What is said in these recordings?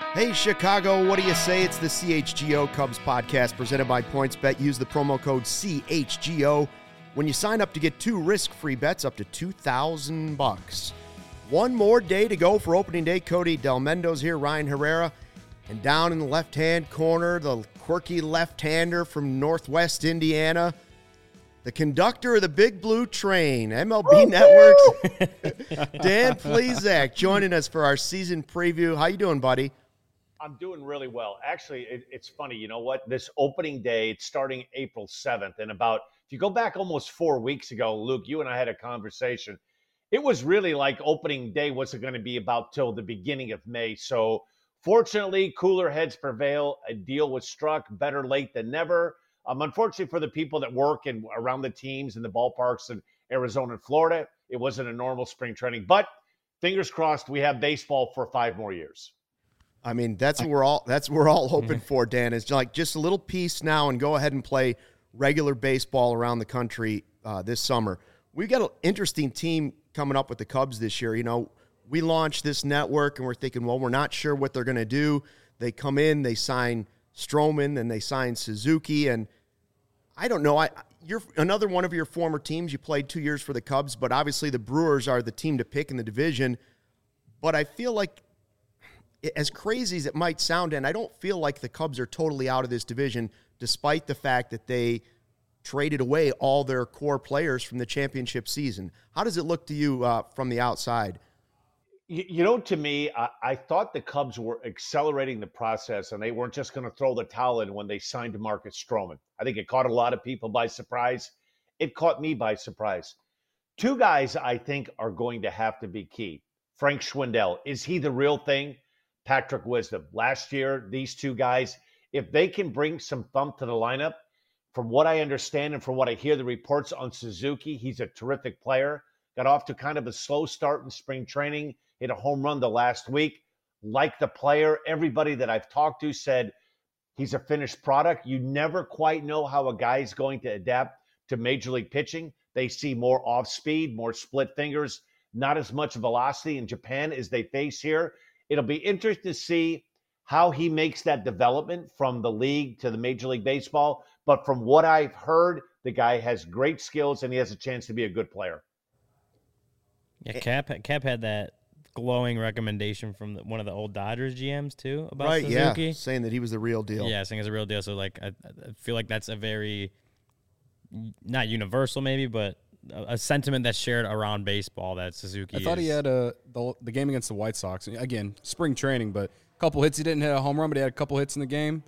Hey, Chicago, what do you say? It's the CHGO Cubs podcast presented by PointsBet. Use the promo code CHGO when you sign up to get 2 risk-free bets up to $2,000. One more day to go for opening day. Cody Del Mendo's here, Ryan Herrera. And down in the left-hand corner, the quirky left-hander from Northwest Indiana, the conductor of the Big Blue Train, MLB Network's Dan Plesac, joining us for our season preview. How you doing, buddy? I'm doing really well. Actually, it's funny. You know what? This opening day, it's starting April 7th. And if you go back almost 4 weeks ago, Luke, you and I had a conversation. It was really like opening day wasn't going to be about till the beginning of May. So fortunately, cooler heads prevail. A deal was struck, better late than never. Unfortunately for the people that work around the teams in the ballparks in Arizona and Florida, it wasn't a normal spring training. But fingers crossed, we have baseball for 5 more years. I mean, that's what we're all hoping for, Dan, is like just a little piece now and go ahead and play regular baseball around the country this summer. We've got an interesting team coming up with the Cubs this year. You know, we launched this network and we're thinking, well, we're not sure what they're going to do. They come in, they sign Stroman, and they sign Suzuki, and I don't know. You're another one of your former teams. You played 2 years for the Cubs, but obviously the Brewers are the team to pick in the division. But I feel like, as crazy as it might sound, and I don't feel like the Cubs are totally out of this division, despite the fact that they traded away all their core players from the championship season. How does it look to you from the outside? You know, to me, I thought the Cubs were accelerating the process, and they weren't just going to throw the towel in when they signed Marcus Stroman. I think it caught a lot of people by surprise. It caught me by surprise. 2 guys I think are going to have to be key. Frank Schwindel, is he the real thing? Patrick Wisdom. Last year, these 2 guys, if they can bring some thump to the lineup, from what I understand and from what I hear the reports on Suzuki, he's a terrific player. Got off to kind of a slow start in spring training, hit a home run the last week. Like the player, everybody that I've talked to said he's a finished product. You never quite know how a guy is going to adapt to major league pitching. They see more off speed, more split fingers, not as much velocity in Japan as they face here. It'll be interesting to see how he makes that development from the league to the Major League Baseball. But from what I've heard, the guy has great skills and he has a chance to be a good player. Yeah, Cap had that glowing recommendation from one of the old Dodgers GMs too about Suzuki. Yeah, saying that he was the real deal. Yeah, saying he's a real deal. So like, I feel like that's a very, not universal maybe, but a sentiment that's shared around baseball that Suzuki I thought he had the game against the White Sox. Again, spring training, but a couple hits. He didn't hit a home run, but he had a couple hits in the game.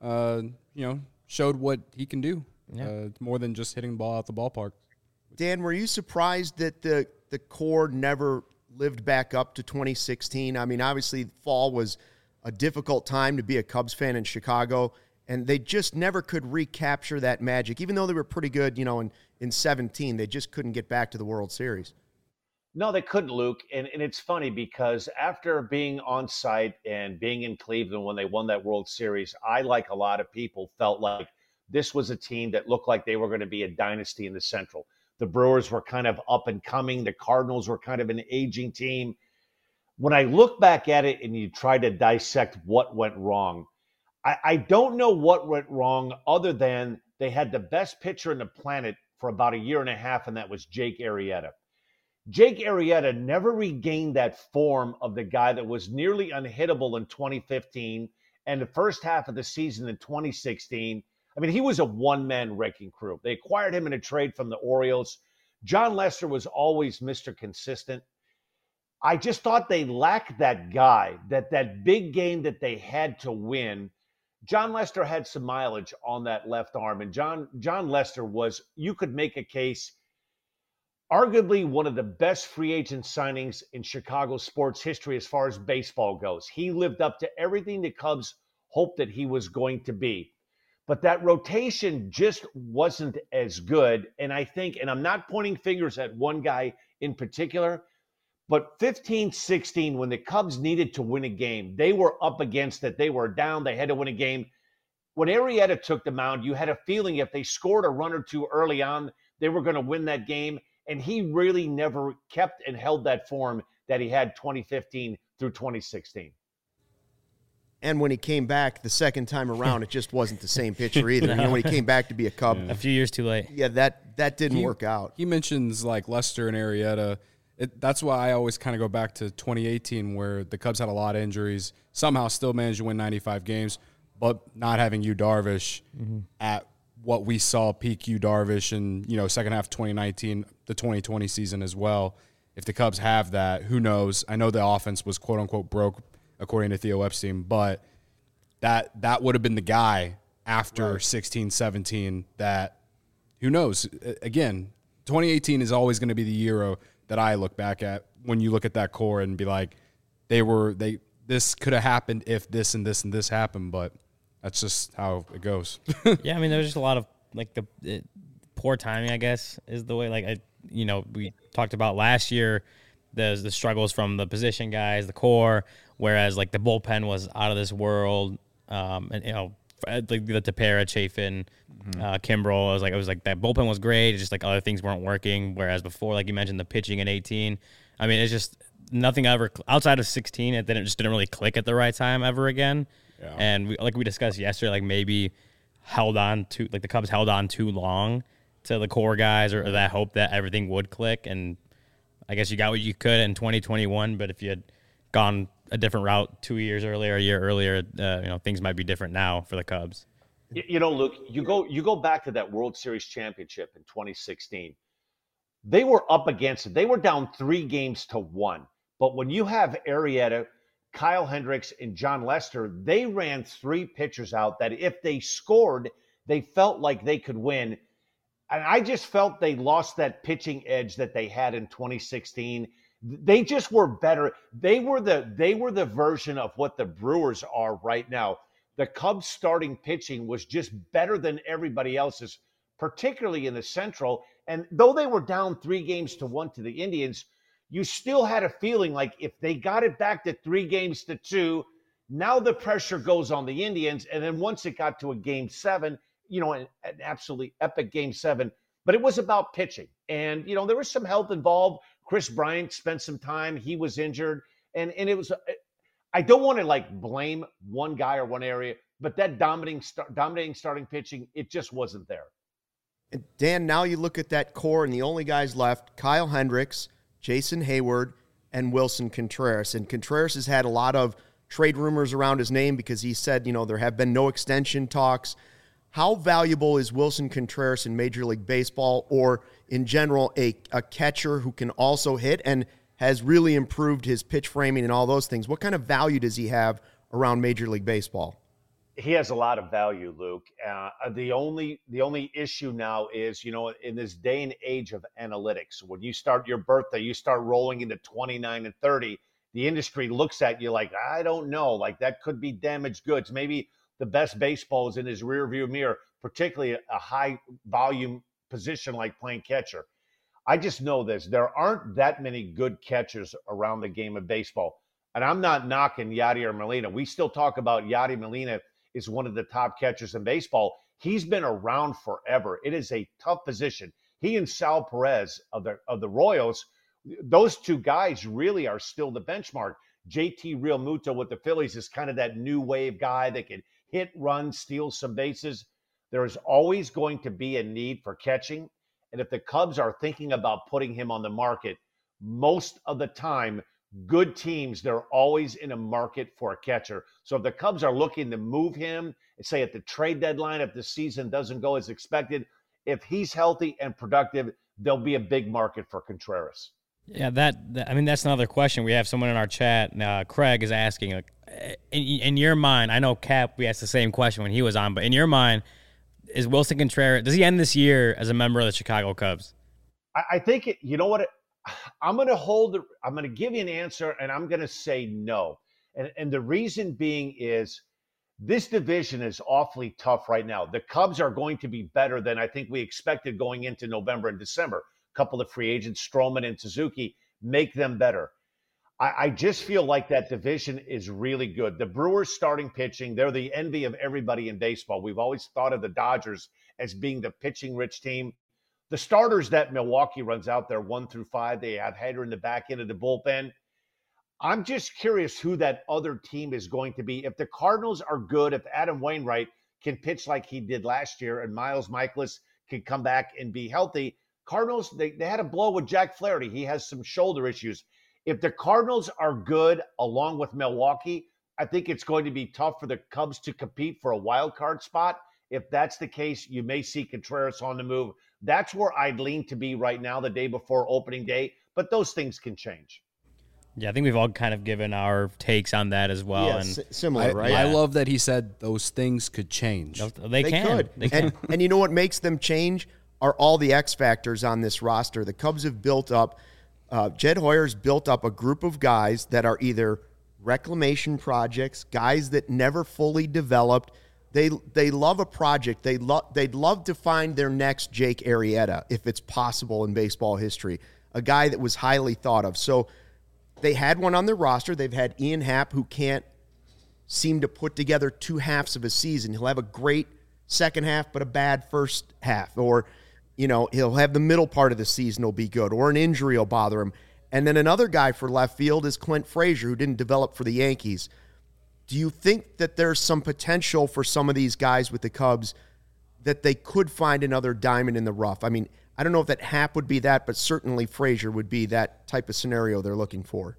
Showed what he can do. Yeah. More than just hitting the ball out the ballpark. Dan, were you surprised that the core never lived back up to 2016? I mean, obviously, fall was a difficult time to be a Cubs fan in Chicago, and they just never could recapture that magic. Even though they were pretty good, in 17, they just couldn't get back to the World Series. No, they couldn't, Luke. And it's funny because after being on site and being in Cleveland when they won that World Series, I, like a lot of people, felt like this was a team that looked like they were going to be a dynasty in the Central. The Brewers were kind of up and coming. The Cardinals were kind of an aging team. When I look back at it and you try to dissect what went wrong, I don't know what went wrong other than they had the best pitcher in the planet for about a year and a half, and that was Jake Arrieta. Jake Arrieta never regained that form of the guy that was nearly unhittable in 2015 and the first half of the season in 2016. I mean, he was a one-man wrecking crew. They acquired him in a trade from the Orioles. John Lester was always Mr. Consistent. I just thought they lacked that guy, that big game that they had to win. John Lester had some mileage on that left arm, and John Lester was, you could make a case, arguably one of the best free agent signings in Chicago sports history as far as baseball goes. He lived up to everything the Cubs hoped that he was going to be. But that rotation just wasn't as good. And I think, and I'm not pointing fingers at one guy in particular, but 15-16, when the Cubs needed to win a game, they were up against it. They were down. They had to win a game. When Arrieta took the mound, you had a feeling if they scored a run or two early on, they were going to win that game. And he really never kept and held that form that he had 2015 through 2016. And when he came back the second time around, it just wasn't the same pitcher either. You know, when he came back to be a Cub. A few years too late. Yeah, that didn't work out. He mentions like Lester and Arrieta. That's why I always kind of go back to 2018 where the Cubs had a lot of injuries, somehow still managed to win 95 games, but not having Yu Darvish at what we saw peak Yu Darvish in, you know, second half of 2019, the 2020 season as well. If the Cubs have that, who knows? I know the offense was quote-unquote broke, according to Theo Epstein, but that would have been the guy after 16, 17 that, who knows? Again, 2018 is always going to be the year that I look back at when you look at that core and be like, this could have happened if this and this and this happened, but that's just how it goes. Yeah, I mean, there was just a lot of like poor timing, I guess, is the way. Like, we talked about last year, the struggles from the position guys, the core, whereas like the bullpen was out of this world. And like the Tepera, Chafin, Kimbrel, it was like that bullpen was great. It's just like other things weren't working. Whereas before, like you mentioned, the pitching in 18. I mean, it's just nothing ever outside of 16. It didn't really click at the right time ever again. Yeah. And we discussed yesterday, like maybe the Cubs held on too long to the core guys or that hope that everything would click. And I guess you got what you could in 2021. But if you had gone a different route 2 years earlier, a year earlier, things might be different now for the Cubs. Luke, you go back to that World Series championship in 2016. They were up against it. They were down 3-1. But when you have Arrieta, Kyle Hendricks, and John Lester, they ran 3 pitchers out that if they scored, they felt like they could win. And I just felt they lost that pitching edge that they had in 2016. They just were better. They were the version of what the Brewers are right now. The Cubs starting pitching was just better than everybody else's, particularly in the Central. And though they were down 3-1 to the Indians, you still had a feeling like if they got it back to 3-2, now the pressure goes on the Indians. And then once it got to a Game 7, an absolutely epic Game 7, but it was about pitching. And, there was some health involved. Chris Bryant spent some time. He was injured. And it was, I don't want to blame one guy or one area, but that dominating starting pitching, it just wasn't there. And Dan, now you look at that core and the only guys left, Kyle Hendricks, Jason Hayward, and Wilson Contreras. And Contreras has had a lot of trade rumors around his name because he said, there have been no extension talks. How valuable is Wilson Contreras in Major League Baseball or in general a catcher who can also hit and has really improved his pitch framing and all those things? What kind of value does he have around Major League Baseball? He has a lot of value, Luke. The only issue now is, in this day and age of analytics, when you start your birthday, you start rolling into 29 and 30, the industry looks at you like, I don't know, like that could be damaged goods. Maybe the best baseball is in his rearview mirror, particularly a high volume position like playing catcher. I just know this. There aren't that many good catchers around the game of baseball. And I'm not knocking Yadier Molina. We still talk about Yadier Molina is one of the top catchers in baseball. He's been around forever. It is a tough position. He and Sal Perez of the Royals, those two guys really are still the benchmark. JT Realmuto with the Phillies is kind of that new wave guy that can hit, run, steal some bases. There is always going to be a need for catching. And if the Cubs are thinking about putting him on the market, most of the time, good teams, they're always in a market for a catcher. So if the Cubs are looking to move him, say at the trade deadline, if the season doesn't go as expected, if he's healthy and productive, there'll be a big market for Contreras. Yeah, that's another question. We have someone in our chat, Craig, is asking, in your mind, I know Cap, we asked the same question when he was on, but in your mind, is Wilson Contreras, does he end this year as a member of the Chicago Cubs? I think, I'm going to give you an answer, and I'm going to say no. And the reason being is this division is awfully tough right now. The Cubs are going to be better than I think we expected going into November and December. A couple of free agents, Stroman and Suzuki, make them better. I just feel like that division is really good. The Brewers starting pitching, they're the envy of everybody in baseball. We've always thought of the Dodgers as being the pitching-rich team. The starters that Milwaukee runs out there 1 through 5, they have Hader in the back end of the bullpen. I'm just curious who that other team is going to be. If the Cardinals are good, if Adam Wainwright can pitch like he did last year and Miles Michaelis can come back and be healthy, Cardinals, they had a blow with Jack Flaherty. He has some shoulder issues. If the Cardinals are good along with Milwaukee, I think it's going to be tough for the Cubs to compete for a wild card spot. If that's the case, you may see Contreras on the move. That's where I'd lean to be right now, the day before opening day. But those things can change. Yeah, I think we've all kind of given our takes on that as well. Yeah, and similar, right? I love that he said those things could change. They can. Could. They can. And you know what makes them change are all the X factors on this roster. The Cubs have built up, Jed Hoyer's built up a group of guys that are either reclamation projects, guys that never fully developed. They love a project. They'd love to find their next Jake Arrieta, if it's possible in baseball history, a guy that was highly thought of. So they had one on their roster. They've had Ian Happ, who can't seem to put together two halves of a season. He'll have a great second half, but a bad first half. Or, he'll have the middle part of the season will be good, or an injury will bother him. And then another guy for left field is Clint Frazier, who didn't develop for the Yankees. Do you think that there's some potential for some of these guys with the Cubs that they could find another diamond in the rough? I mean, I don't know if that Happ would be that, but certainly Frazier would be that type of scenario they're looking for.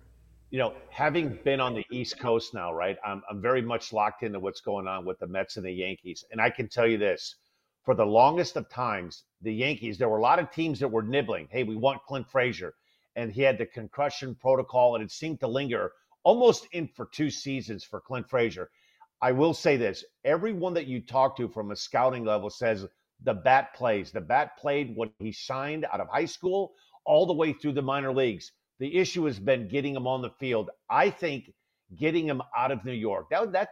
Having been on the East Coast now, right, I'm very much locked into what's going on with the Mets and the Yankees. And I can tell you this, for the longest of times, the Yankees, there were a lot of teams that were nibbling. Hey, we want Clint Frazier. And he had the concussion protocol, and it seemed to linger almost in for 2 seasons for Clint Frazier. I will say this, everyone that you talk to from a scouting level says the bat plays. The bat played when he signed out of high school all the way through the minor leagues. The issue has been getting him on the field. I think getting him out of New York.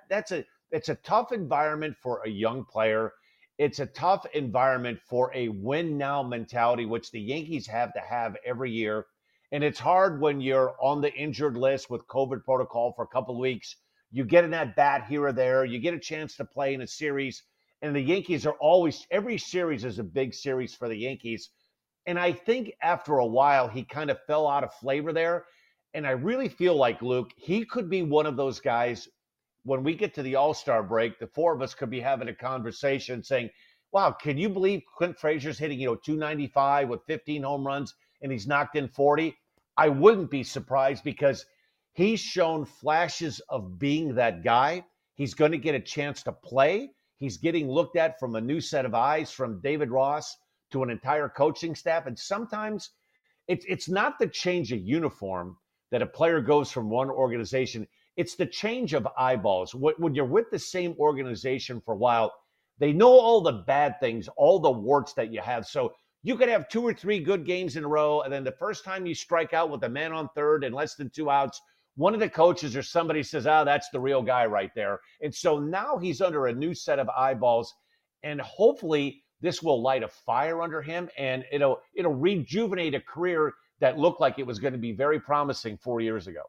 It's a tough environment for a young player. It's a tough environment for a win now mentality, which the Yankees have to have every year. And it's hard when you're on the injured list with COVID protocol for a couple of weeks. You get an at bat here or there. You get a chance to play in a series. And the Yankees are always, every series is a big series for the Yankees. And I think after a while, he kind of fell out of flavor there. And I really feel like, Luke, he could be one of those guys when we get to the All-Star break, the four of us could be having a conversation saying, wow, can you believe Clint Frazier's hitting, 295 with 15 home runs and he's knocked in 40? I wouldn't be surprised because he's shown flashes of being that guy. He's going to get a chance to play. He's getting looked at from a new set of eyes from David Ross to an entire coaching staff. And sometimes it's not the change of uniform that a player goes from one organization. It's the change of eyeballs. When you're with the same organization for a while, they know all the bad things, all the warts that you have. So you could have 2 or 3 good games in a row, and then the first time you strike out with a man on third and less than 2 outs, one of the coaches or somebody says, that's the real guy right there. And so now he's under a new set of eyeballs, and hopefully this will light a fire under him, and it'll rejuvenate a career that looked like it was going to be very promising 4 years ago.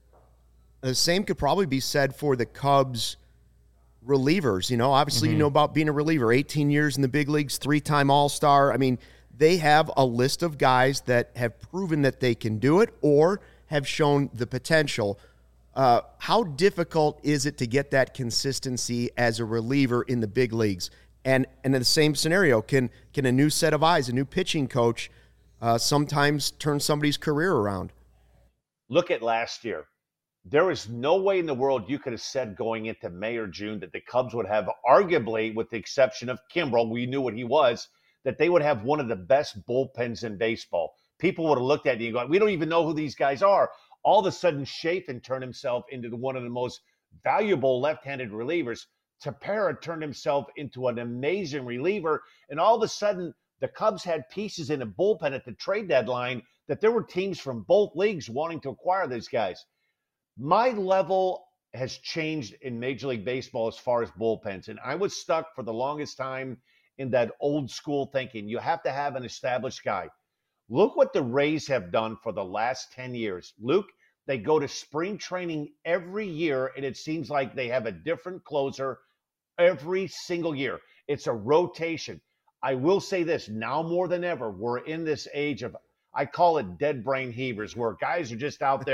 The same could probably be said for the Cubs relievers. Obviously, you know about being a reliever, 18 years in the big leagues, 3-time All-Star. I mean, they have a list of guys that have proven that they can do it or have shown the potential. How difficult is it to get that consistency as a reliever in the big leagues? And in the same scenario, can a new set of eyes, a new pitching coach, sometimes turn somebody's career around? Look at last year. There is no way in the world you could have said going into May or June that the Cubs would have, arguably, with the exception of Kimbrel, we knew what he was, that they would have one of the best bullpens in baseball. People would have looked at you and gone, we don't even know who these guys are. All of a sudden, Chafin turned himself into one of the most valuable left-handed relievers. Tepera turned himself into an amazing reliever. And all of a sudden, the Cubs had pieces in a bullpen at the trade deadline that there were teams from both leagues wanting to acquire these guys. My level has changed in Major League Baseball as far as bullpens. And I was stuck for the longest time in that old school thinking. You have to have an established guy. Look what the Rays have done for the last 10 years. Luke, they go to spring training every year, and it seems like they have a different closer every single year. It's a rotation. I will say this, now more than ever, we're in this age of, I call it dead brain heavers, where guys are just out there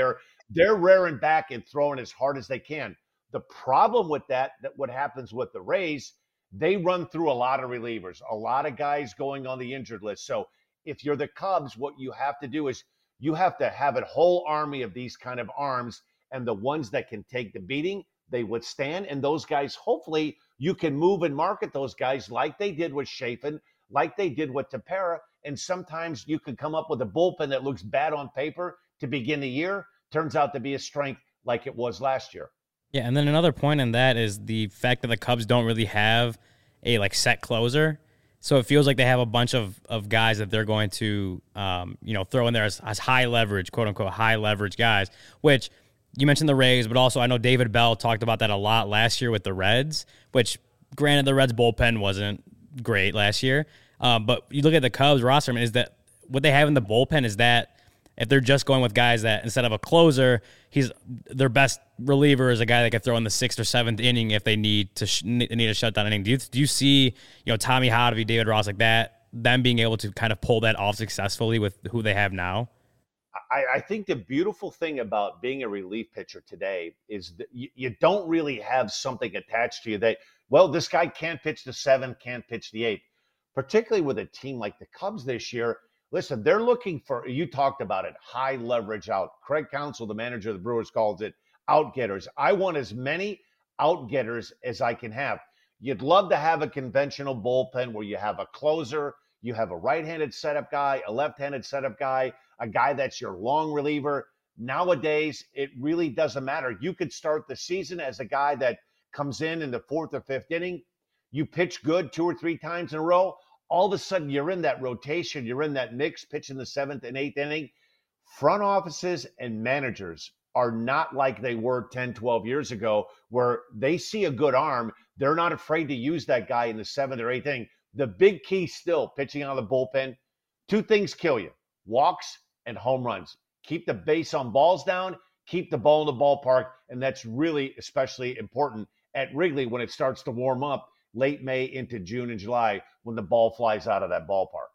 they're rearing back and throwing as hard as they can. The problem with that what happens with the Rays, they run through a lot of relievers, a lot of guys going on the injured list. So if you're the Cubs, what you have to do is you have to have a whole army of these kind of arms, and the ones that can take the beating, they withstand. And those guys, hopefully, you can move and market those guys like they did with Chafin, like they did with Tepera. And sometimes you can come up with a bullpen that looks bad on paper to begin the year, turns out to be a strength like it was last year. Yeah, and then another point in that is the fact that the Cubs don't really have a set closer. So it feels like they have a bunch of guys that they're going to throw in there as high leverage, quote unquote, high leverage guys, which you mentioned the Rays, but also I know David Bell talked about that a lot last year with the Reds, which granted the Reds bullpen wasn't great last year. But you look at the Cubs roster, is that what they have in the bullpen is that if they're just going with guys that instead of a closer, their best reliever is a guy that can throw in the 6th or 7th inning if they need a shutdown inning. Do you see Tommy Hotovy, David Ross like that, them being able to kind of pull that off successfully with who they have now? I think the beautiful thing about being a relief pitcher today is that you don't really have something attached to you that, well, this guy can't pitch the 7th, can't pitch the 8th. Particularly with a team like the Cubs this year, listen, they're looking for, you talked about it, high leverage out. Craig Counsell, the manager of the Brewers, calls it out-getters. I want as many out-getters as I can have. You'd love to have a conventional bullpen where you have a closer, you have a right-handed setup guy, a left-handed setup guy, a guy that's your long reliever. Nowadays, it really doesn't matter. You could start the season as a guy that comes in the 4th or 5th inning. You pitch good 2 or 3 times in a row. All of a sudden, you're in that rotation. You're in that mix, pitching the 7th and 8th inning. Front offices and managers are not like they were 10, 12 years ago, where they see a good arm. They're not afraid to use that guy in the 7th or 8th inning. The big key still, pitching out of the bullpen, 2 things kill you: walks and home runs. Keep the base on balls down, keep the ball in the ballpark, and that's really especially important at Wrigley when it starts to warm up late May into June and July when the ball flies out of that ballpark.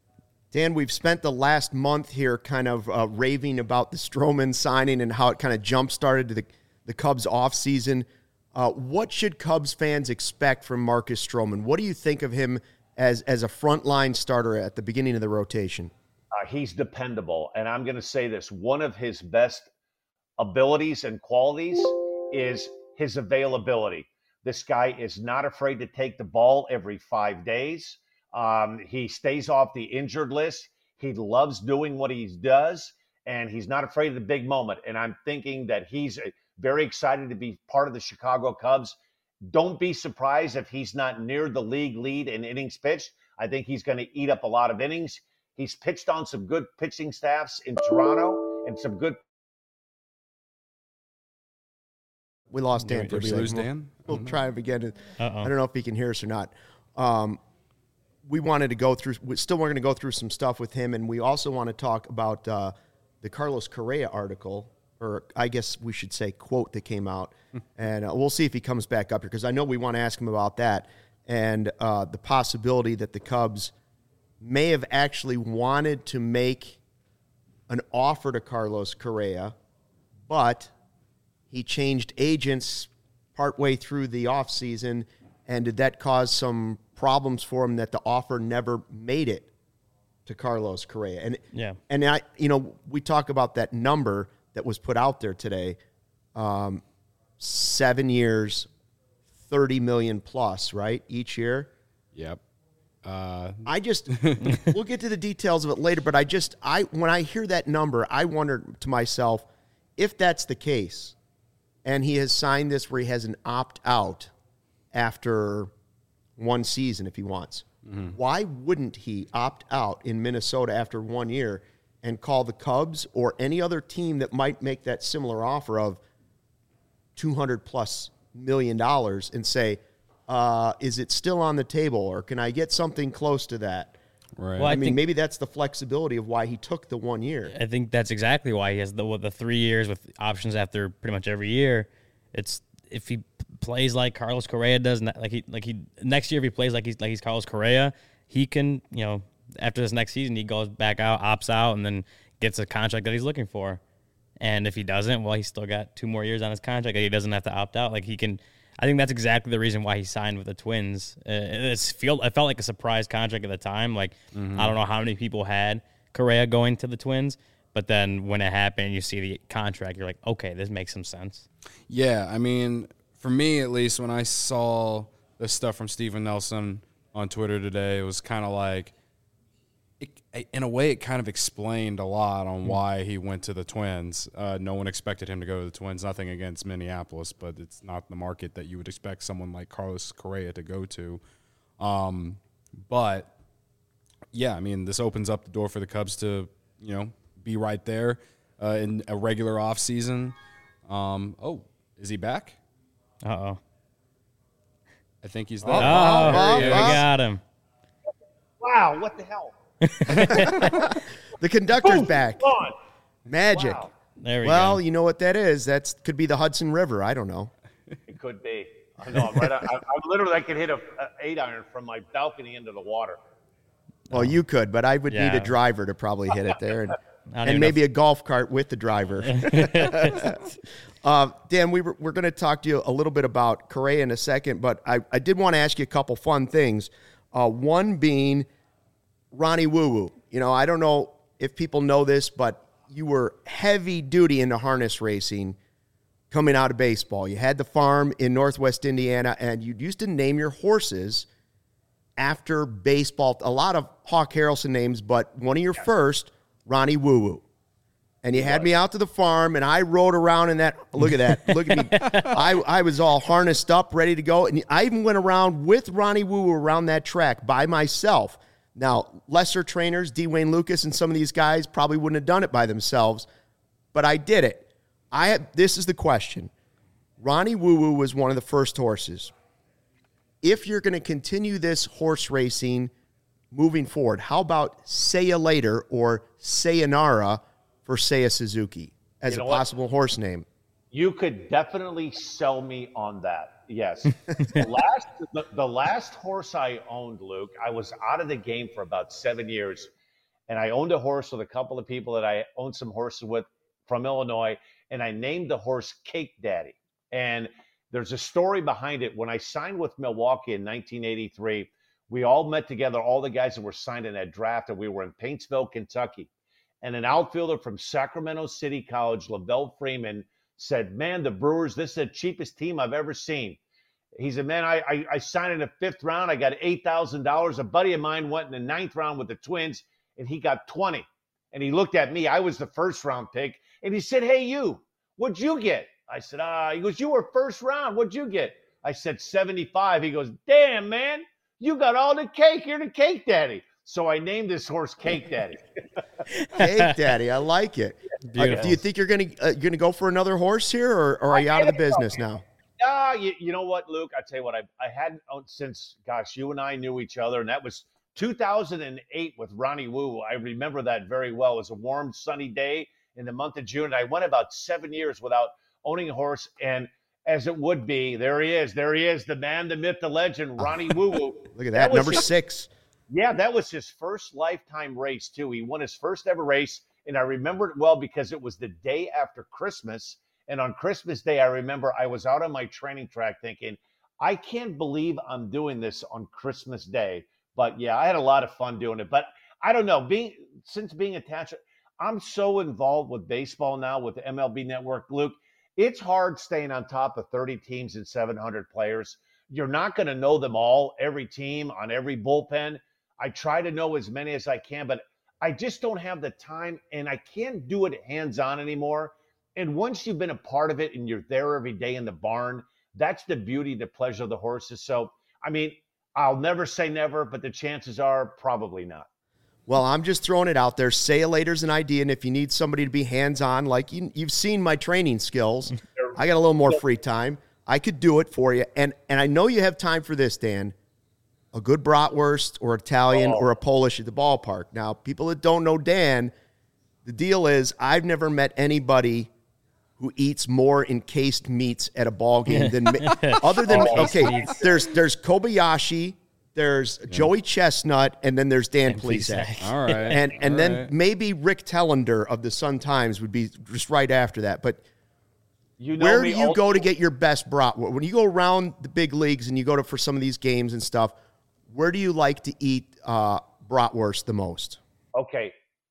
Dan, we've spent the last month here kind of raving about the Stroman signing and how it kind of jump-started the Cubs offseason. What should Cubs fans expect from Marcus Stroman? What do you think of him as a frontline starter at the beginning of the rotation? He's dependable, and I'm going to say this. One of his best abilities and qualities is his availability. This guy is not afraid to take the ball every 5 days. He stays off the injured list. He loves doing what he does, and he's not afraid of the big moment. And I'm thinking that he's very excited to be part of the Chicago Cubs. Don't be surprised if he's not near the league lead in innings pitched. I think he's going to eat up a lot of innings. He's pitched on some good pitching staffs in Toronto and some good. We lost Dan for a second. Lose Dan? We'll try him again. Uh-oh. I don't know if he can hear us or not. We wanted to go through, we're going to go through some stuff with him, and we also want to talk about the Carlos Correa article, or I guess we should say quote that came out, and we'll see if he comes back up here, because I know we want to ask him about that, and the possibility that the Cubs may have actually wanted to make an offer to Carlos Correa, but he changed agents partway through the offseason, and did that cause some problems for him that the offer never made it to Carlos Correa? And yeah, and we talk about that number that was put out there today, 7 years, $30 million plus, right, each year. Yep. I just we'll get to the details of it later, but when I hear that number, I wonder to myself, if that's the case, and he has signed this where he has an opt-out after one season if he wants, why wouldn't he opt out in Minnesota after 1 year and call the Cubs or any other team that might make that similar offer of $200+ million and say, is it still on the table, or can I get something close to that? Right. Well, I mean, maybe that's the flexibility of why he took the 1 year. I think that's exactly why he has the 3 years with options after pretty much every year. It's if he plays like Carlos Correa does, like he next year, if he plays like he's Carlos Correa, he can, after this next season, he goes back out, opts out, and then gets a contract that he's looking for. And if he doesn't, well, he's still got 2 more years on his contract. He doesn't have to opt out. Like, he can. I think that's exactly the reason why he signed with the Twins. It felt like a surprise contract at the time. Like, I don't know how many people had Correa going to the Twins, but then when it happened, you see the contract, you're like, okay, this makes some sense. Yeah, I mean, for me at least, when I saw the stuff from Steven Nelson on Twitter today, it was kind of like, in a way, it kind of explained a lot on why he went to the Twins. No one expected him to go to the Twins. Nothing against Minneapolis, but it's not the market that you would expect someone like Carlos Correa to go to. But, yeah, I mean, this opens up the door for the Cubs to, be right there in a regular offseason. Is he back? Uh-oh. I think he's there. We got him. Wow, what the hell? The conductor's back. On. Magic. Wow. There we go. Well, you know what that is. That could be the Hudson River. I don't know. It could be. I know. I'm literally, I could hit a 8-iron from my balcony into the water. Well, you could, but I would need Yeah. a driver to probably hit it there. I don't And even maybe a golf cart with the driver. Dan, we're going to talk to you a little bit about Correa in a second, but I did want to ask you a couple fun things. One being Ronnie Woo Woo. I don't know if people know this, but you were heavy duty into harness racing coming out of baseball. You had the farm in Northwest Indiana, and you used to name your horses after baseball. A lot of Hawk Harrelson names, but one of your first, Ronnie Woo Woo. And you had me out to the farm, and I rode around in that. Look at that. Look at me. I was all harnessed up, ready to go. And I even went around with Ronnie Woo Woo around that track by myself. Now, lesser trainers, D. Wayne Lucas and some of these guys probably wouldn't have done it by themselves, but I did it. This is the question. Ronnie Woo Woo was one of the first horses. If you're going to continue this horse racing moving forward, how about Say Ya Later or Sayonara for Seiya Suzuki as a possible horse name? You could definitely sell me on that. Yes. The last horse I owned, Luke, I was out of the game for about 7 years. And I owned a horse with a couple of people that I owned some horses with from Illinois. And I named the horse Cake Daddy. And there's a story behind it. When I signed with Milwaukee in 1983, we all met together, all the guys that were signed in that draft, and we were in Paintsville, Kentucky. And an outfielder from Sacramento City College, Lavelle Freeman, said, man, the Brewers, this is the cheapest team I've ever seen. He said, man, I signed in the 5th round. I got $8,000. A buddy of mine went in the 9th round with the Twins, and he got 20. And he looked at me. I was the 1st round pick. And he said, hey, you, what'd you get? I said, he goes, you were 1st round. What'd you get? I said, 75. He goes, damn, man, you got all the cake. You're the Cake Daddy. So I named this horse Cake Daddy. Cake Daddy, I like it. Do you think you're gonna go for another horse here, or are you out of the business now? You know what, Luke? I tell you what, I hadn't since, gosh, you and I knew each other, and that was 2008 with Ronnie Woo. I remember that very well. It was a warm, sunny day in the month of June, and I went about 7 years without owning a horse. And as it would be, there he is, the man, the myth, the legend, Ronnie Woo Woo. Look at that, number 6. Yeah, that was his first lifetime race, too. He won his first ever race, and I remember it well because it was the day after Christmas. And on Christmas Day, I remember I was out on my training track thinking, I can't believe I'm doing this on Christmas Day. But, yeah, I had a lot of fun doing it. But I don't know. Since being attached, I'm so involved with baseball now with the MLB Network. Luke, it's hard staying on top of 30 teams and 700 players. You're not going to know them all, every team, on every bullpen. I try to know as many as I can, but I just don't have the time, and I can't do it hands-on anymore. And once you've been a part of it and you're there every day in the barn, that's the beauty, the pleasure of the horses. So, I mean, I'll never say never, but the chances are probably not. Well, I'm just throwing it out there. Say Ya Later's an idea, and if you need somebody to be hands-on, like you've seen my training skills, I got a little more free time. I could do it for you. And I know you have time for this, Dan. A good bratwurst or Italian or a Polish at the ballpark. Now, people that don't know Dan, the deal is I've never met anybody who eats more encased meats at a ball game than me. Other than, okay, there's Kobayashi, there's Joey Chestnut, and then there's Dan Plesac. All right. And then maybe Rick Tellender of the Sun-Times would be just right after that. But where do you go to get your best bratwurst? When you go around the big leagues and you go for some of these games and stuff, where do you like to eat bratwurst the most? Okay.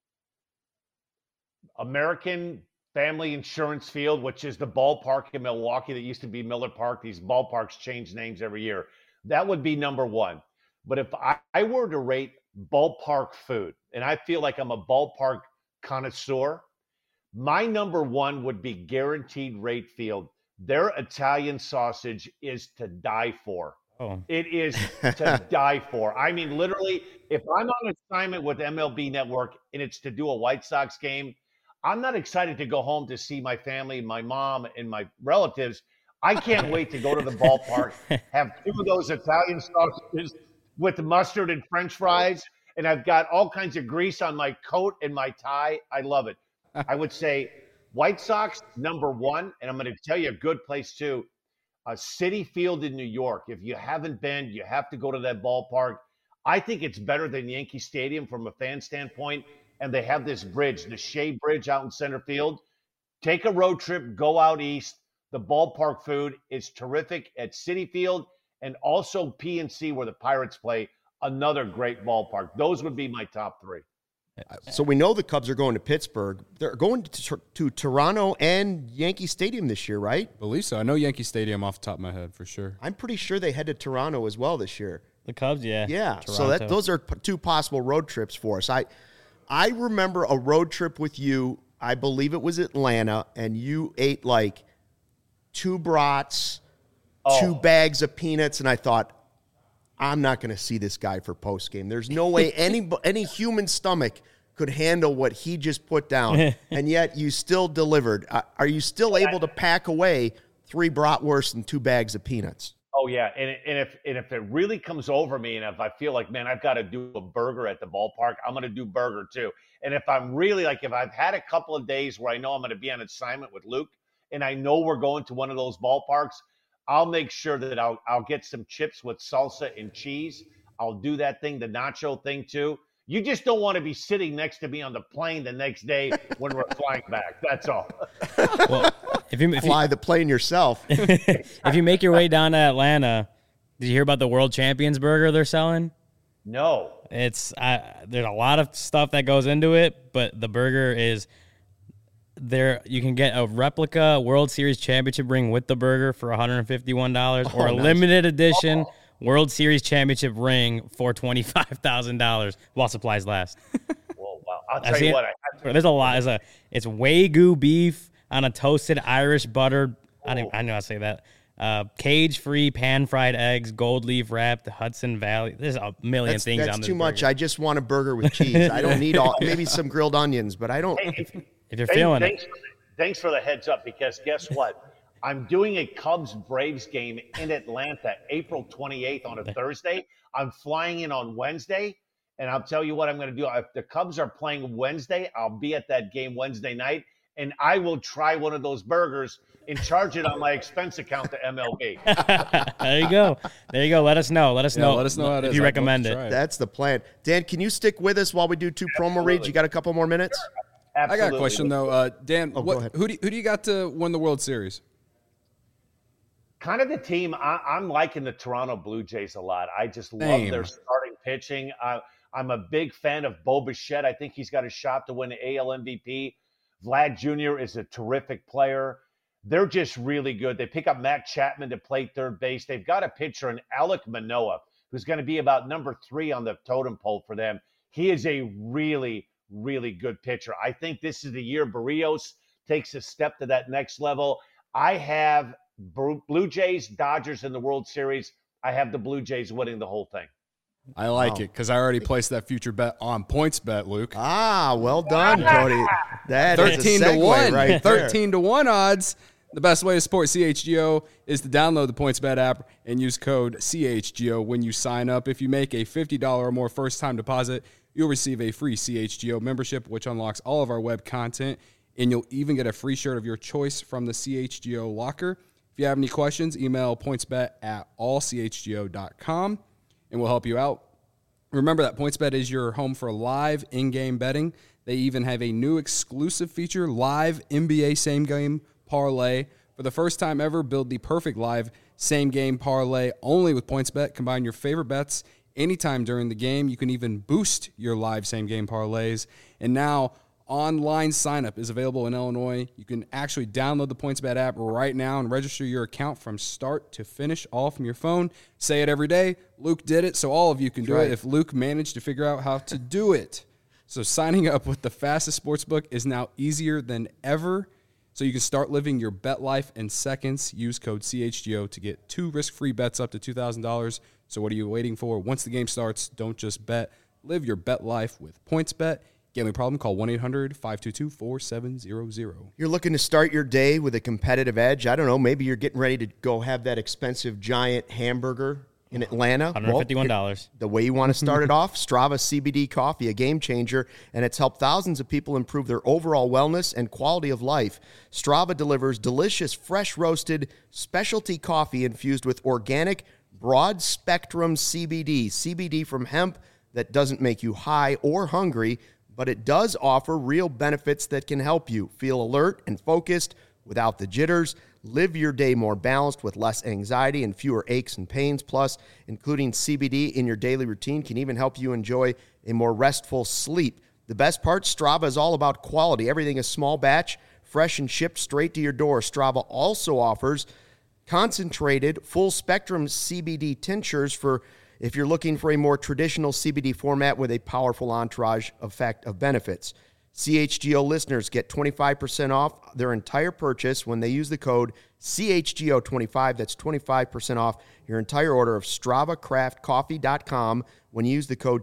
American Family Insurance Field, which is the ballpark in Milwaukee that used to be Miller Park. These ballparks change names every year. That would be number one. But if I were to rate ballpark food, and I feel like I'm a ballpark connoisseur, my number one would be Guaranteed Rate Field. Their Italian sausage is to die for. Oh. It is to die for. I mean, literally, if I'm on assignment with MLB Network and it's to do a White Sox game, I'm not excited to go home to see my family, my mom, and my relatives. I can't wait to go to the ballpark, have 2 of those Italian sausages with mustard and French fries, and I've got all kinds of grease on my coat and my tie. I love it. I would say White Sox, number one, and I'm going to tell you a good place too, Citi Field in New York. If you haven't been, you have to go to that ballpark. I think it's better than Yankee Stadium from a fan standpoint, and they have this bridge, the Shea Bridge out in center field. Take a road trip, go out east. The ballpark food is terrific at Citi Field, and also PNC where the Pirates play, another great ballpark. Those would be my top 3. So we know the Cubs are going to Pittsburgh. They're going to Toronto and Yankee Stadium this year, right? I believe so. I know Yankee Stadium off the top of my head for sure. I'm pretty sure they head to Toronto as well this year. The Cubs, yeah. Yeah, Toronto. so those are 2 possible road trips for us. I remember a road trip with you. I believe it was Atlanta, and you ate like 2 brats, 2 bags of peanuts, and I thought, I'm not going to see this guy for postgame. There's no way any human stomach could handle what he just put down, and yet you still delivered. Are you still able to pack away 3 bratwursts and 2 bags of peanuts? Oh yeah, and if it really comes over me, and if I feel like, man, I've got to do a burger at the ballpark, I'm going to do burger too. And if I'm really if I've had a couple of days where I know I'm going to be on assignment with Luke, and I know we're going to one of those ballparks, I'll make sure that I'll get some chips with salsa and cheese. I'll do that thing, the nacho thing too. You just don't want to be sitting next to me on the plane the next day when we're flying back. That's all. Well, if you fly the plane yourself. If you make your way down to Atlanta, did you hear about the World Champions burger they're selling? No. It's there's a lot of stuff that goes into it, but the burger is there. You can get a replica World Series championship ring with the burger for $151, or a limited edition World Series championship ring for $25,000 while supplies last. Whoa, wow! I'll tell you what. There's a lot. It's Wagyu beef on a toasted Irish butter. I know how to say that. Cage-free pan-fried eggs, gold leaf wrapped, Hudson Valley. There's a million things on this. That's too much. burger. I just want a burger with cheese. I don't need maybe some grilled onions, but I don't. If you're feeling it. Thanks for the heads up, because guess what? I'm doing a Cubs-Braves game in Atlanta, April 28th on a Thursday. I'm flying in on Wednesday, and I'll tell you what I'm going to do. If the Cubs are playing Wednesday, I'll be at that game Wednesday night, and I will try one of those burgers and charge it on my expense account to MLB. There you go. Let us know. Let us know how it if is. you I'd recommend love it. to try That's the plan. Dan, can you stick with us while we do 2 promo reads? You got a couple more minutes? Absolutely. I got a question though, Dan. go ahead. Who do you got to win the World Series? Kind of the team. I'm liking the Toronto Blue Jays a lot. I just love their starting pitching. I'm a big fan of Bo Bichette. I think he's got a shot to win the AL MVP. Vlad Jr. is a terrific player. They're just really good. They pick up Matt Chapman to play third base. They've got a pitcher in Alek Manoah, who's going to be about number 3 on the totem pole for them. He is a really, really good pitcher. I think this is the year Barrios takes a step to that next level. I have Blue Jays, Dodgers in the World Series. I have the Blue Jays winning the whole thing. I like it because I already placed that future bet on PointsBet, Luke. Well done, Cody. That 13 is a to segue 1. right there. 13 to 1 odds. The best way to support CHGO is to download the PointsBet app and use code CHGO when you sign up. If you make a $50 or more first-time deposit, you'll receive a free CHGO membership, which unlocks all of our web content, and you'll even get a free shirt of your choice from the CHGO locker. If you have any questions, email pointsbet@allchgo.com. and we'll help you out. Remember that PointsBet is your home for live in-game betting. They even have a new exclusive feature, Live NBA Same Game Parlay. For the first time ever, build the perfect live same game parlay only with PointsBet. Combine your favorite bets anytime during the game. You can even boost your live same game parlays. And now online signup is available in Illinois. You can actually download the PointsBet app right now and register your account from start to finish, all from your phone. Say it every day. Luke did it, so all of you can do it if Luke managed to figure out how to do it. So signing up with the fastest sportsbook is now easier than ever. So you can start living your bet life in seconds. Use code CHGO to get 2 risk-free bets up to $2,000. So what are you waiting for? Once the game starts, don't just bet. Live your bet life with PointsBet. Gambling problem? Call 1-800-522-4700. You're looking to start your day with a competitive edge. I don't know. Maybe you're getting ready to go have that expensive giant hamburger in Atlanta. $151. Well, the way you want to start it off, Strava CBD coffee, a game changer, and it's helped thousands of people improve their overall wellness and quality of life. Strava delivers delicious, fresh roasted specialty coffee infused with organic, broad spectrum CBD. CBD from hemp that doesn't make you high or hungry, but it does offer real benefits that can help you feel alert and focused without the jitters. Live your day more balanced with less anxiety and fewer aches and pains. Plus, including CBD in your daily routine can even help you enjoy a more restful sleep. The best part, Strava is all about quality. Everything is small batch, fresh and shipped straight to your door. Strava also offers concentrated full-spectrum CBD tinctures for if you're looking for a more traditional CBD format with a powerful entourage effect of benefits. CHGO listeners get 25% off their entire purchase when they use the code CHGO25. That's 25% off your entire order of StravaCraftCoffee.com when you use the code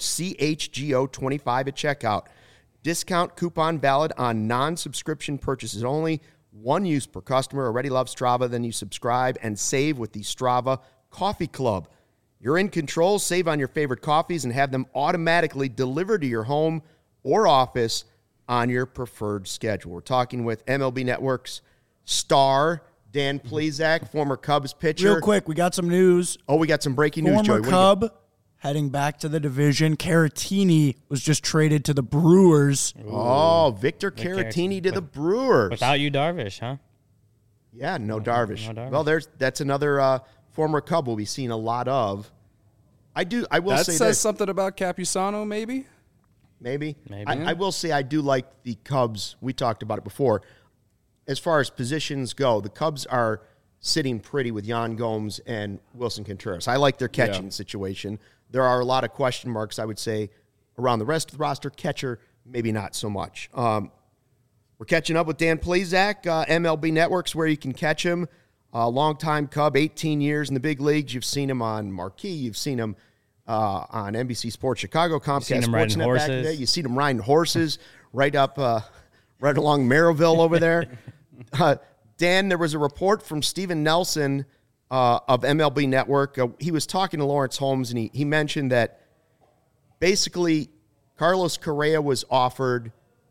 CHGO25 at checkout. Discount coupon valid on non-subscription purchases only. One use per customer. Already love Strava? Then you subscribe and save with the Strava Coffee Club. You're in control. Save on your favorite coffees and have them automatically delivered to your home or office on your preferred schedule. We're talking with MLB Network's star, Dan Plesac, former Cubs pitcher. Real quick, we got some news. Oh, we got some breaking news, Joey. Former Cub heading back to the division. Caratini was just traded to the Brewers. Oh, Victor Caratini to the Brewers. Without you, Darvish, huh? Yeah, no Darvish. No Darvish. Well, that's another former Cub we'll be seeing a lot of. I will That say says this. something about Capusano, maybe? Maybe. Maybe. I will say I do like the Cubs. We talked about it before. As far as positions go, the Cubs are sitting pretty with Yan Gomes and Wilson Contreras. I like their catching situation. There are a lot of question marks, I would say, around the rest of the roster. Catcher, maybe not so much. We're catching up with Dan Plesac, MLB Network's where you can catch him. Longtime Cub, 18 years in the big leagues. You've seen him on Marquee. You've seen him on NBC Sports Chicago, Comcast Sportsnet back in the day. You've seen him riding horses right up, right along Merrillville over there. Dan, there was a report from Steven Nelson of MLB Network. He was talking to Lawrence Holmes, and he mentioned that basically Carlos Correa was offered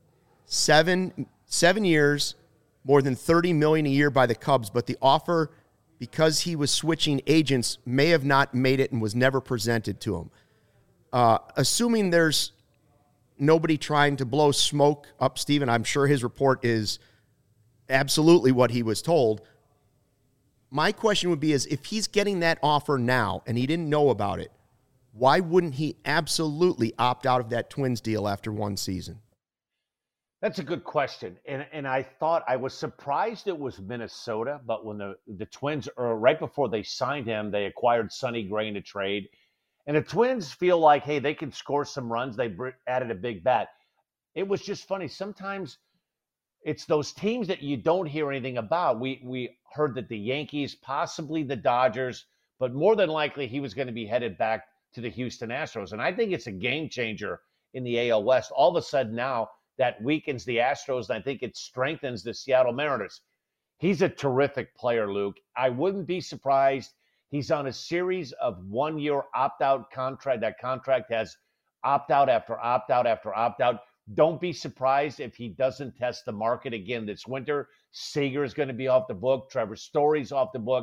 7 years, more than $30 million a year by the Cubs, but the offer, because he was switching agents, may have not made it and was never presented to him. Assuming there's nobody trying to blow smoke up Steven, I'm sure his report is absolutely what he was told. My question would be is if he's getting that offer now and he didn't know about it, why wouldn't he absolutely opt out of that Twins deal after one season? That's a good question. And I thought I was surprised it was Minnesota, but when the Twins, right before they signed him, they acquired Sonny Gray in a trade. And the Twins feel like, hey, they can score some runs. They added a big bat. It was just funny. Sometimes it's those teams that you don't hear anything about. We heard that the Yankees, possibly the Dodgers, but more than likely he was going to be headed back to the Houston Astros. And I think it's a game changer in the AL West. All of a sudden now, that weakens the Astros, and I think it strengthens the Seattle Mariners. He's a terrific player, Luke. I wouldn't be surprised. He's on a series of one-year opt-out contract. That contract has opt-out after opt-out after opt-out. Don't be surprised if he doesn't test the market again this winter. Seager is going to be off the book. Trevor Story's off the book.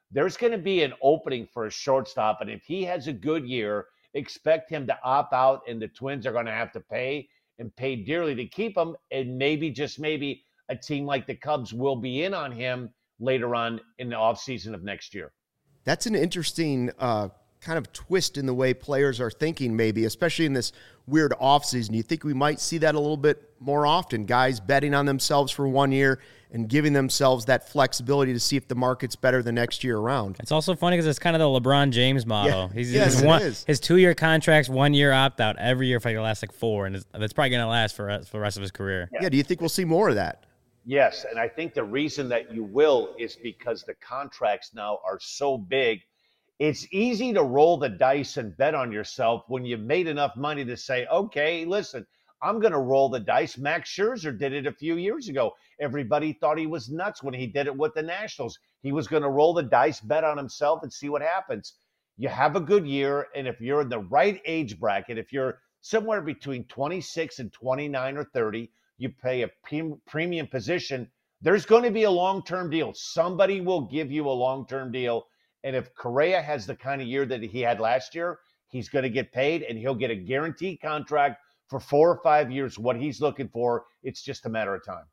there's going to be an opening for a shortstop. And if he has a good year, expect him to opt out, and the Twins are going to have to pay and pay dearly to keep him. And maybe, just maybe, a team like the Cubs will be in on him later on in the offseason of next year. That's an interesting kind of twist in the way players are thinking, maybe, especially in this weird offseason. You think we might see that a little bit more often, guys betting on themselves for 1 year and giving themselves that flexibility to see if the market's better the next year around. It's also funny because it's kind of the LeBron James model. Yeah. His 2 year contract's 1 year opt out every year for the last 4, and that's probably going to last for the rest of his career. Yeah. Do you think we'll see more of that? Yes, and I think the reason that you will is because the contracts now are so big. It's easy to roll the dice and bet on yourself when you've made enough money to say, okay, listen, I'm going to roll the dice. Max Scherzer did it a few years ago. Everybody thought he was nuts when he did it with the Nationals. He was going to roll the dice, bet on himself, and see what happens. You have a good year, and if you're in the right age bracket, if you're somewhere between 26 and 29 or 30, you pay a premium position, there's going to be a long-term deal. Somebody will give you a long-term deal. And if Correa has the kind of year that he had last year, he's going to get paid, and he'll get a guaranteed contract for 4 or 5 years, what he's looking for. It's just a matter of time.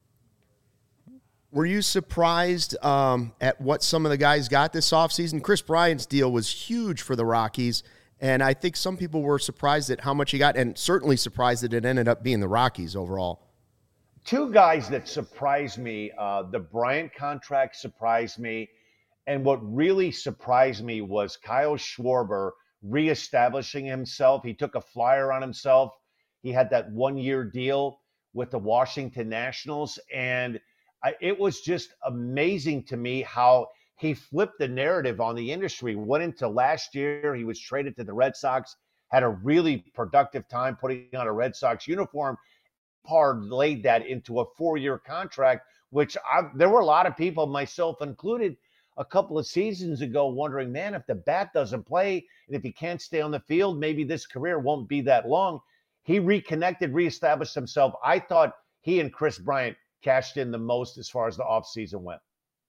Were you surprised at what some of the guys got this offseason? Chris Bryant's deal was huge for the Rockies, and I think some people were surprised at how much he got, and certainly surprised that it ended up being the Rockies overall. Two guys that surprised me, the Bryant contract surprised me, and what really surprised me was Kyle Schwarber reestablishing himself. He took a flyer on himself. He had that 1 year deal with the Washington Nationals, and it was just amazing to me how he flipped the narrative on the industry. Went into last year, he was traded to the Red Sox, had a really productive time putting on a Red Sox uniform, parlayed that into a 4-year contract, which there were a lot of people, myself included, a couple of seasons ago wondering, man, if the bat doesn't play and if he can't stay on the field, maybe this career won't be that long. He reconnected, reestablished himself. I thought he and Chris Bryant cashed in the most as far as the offseason went.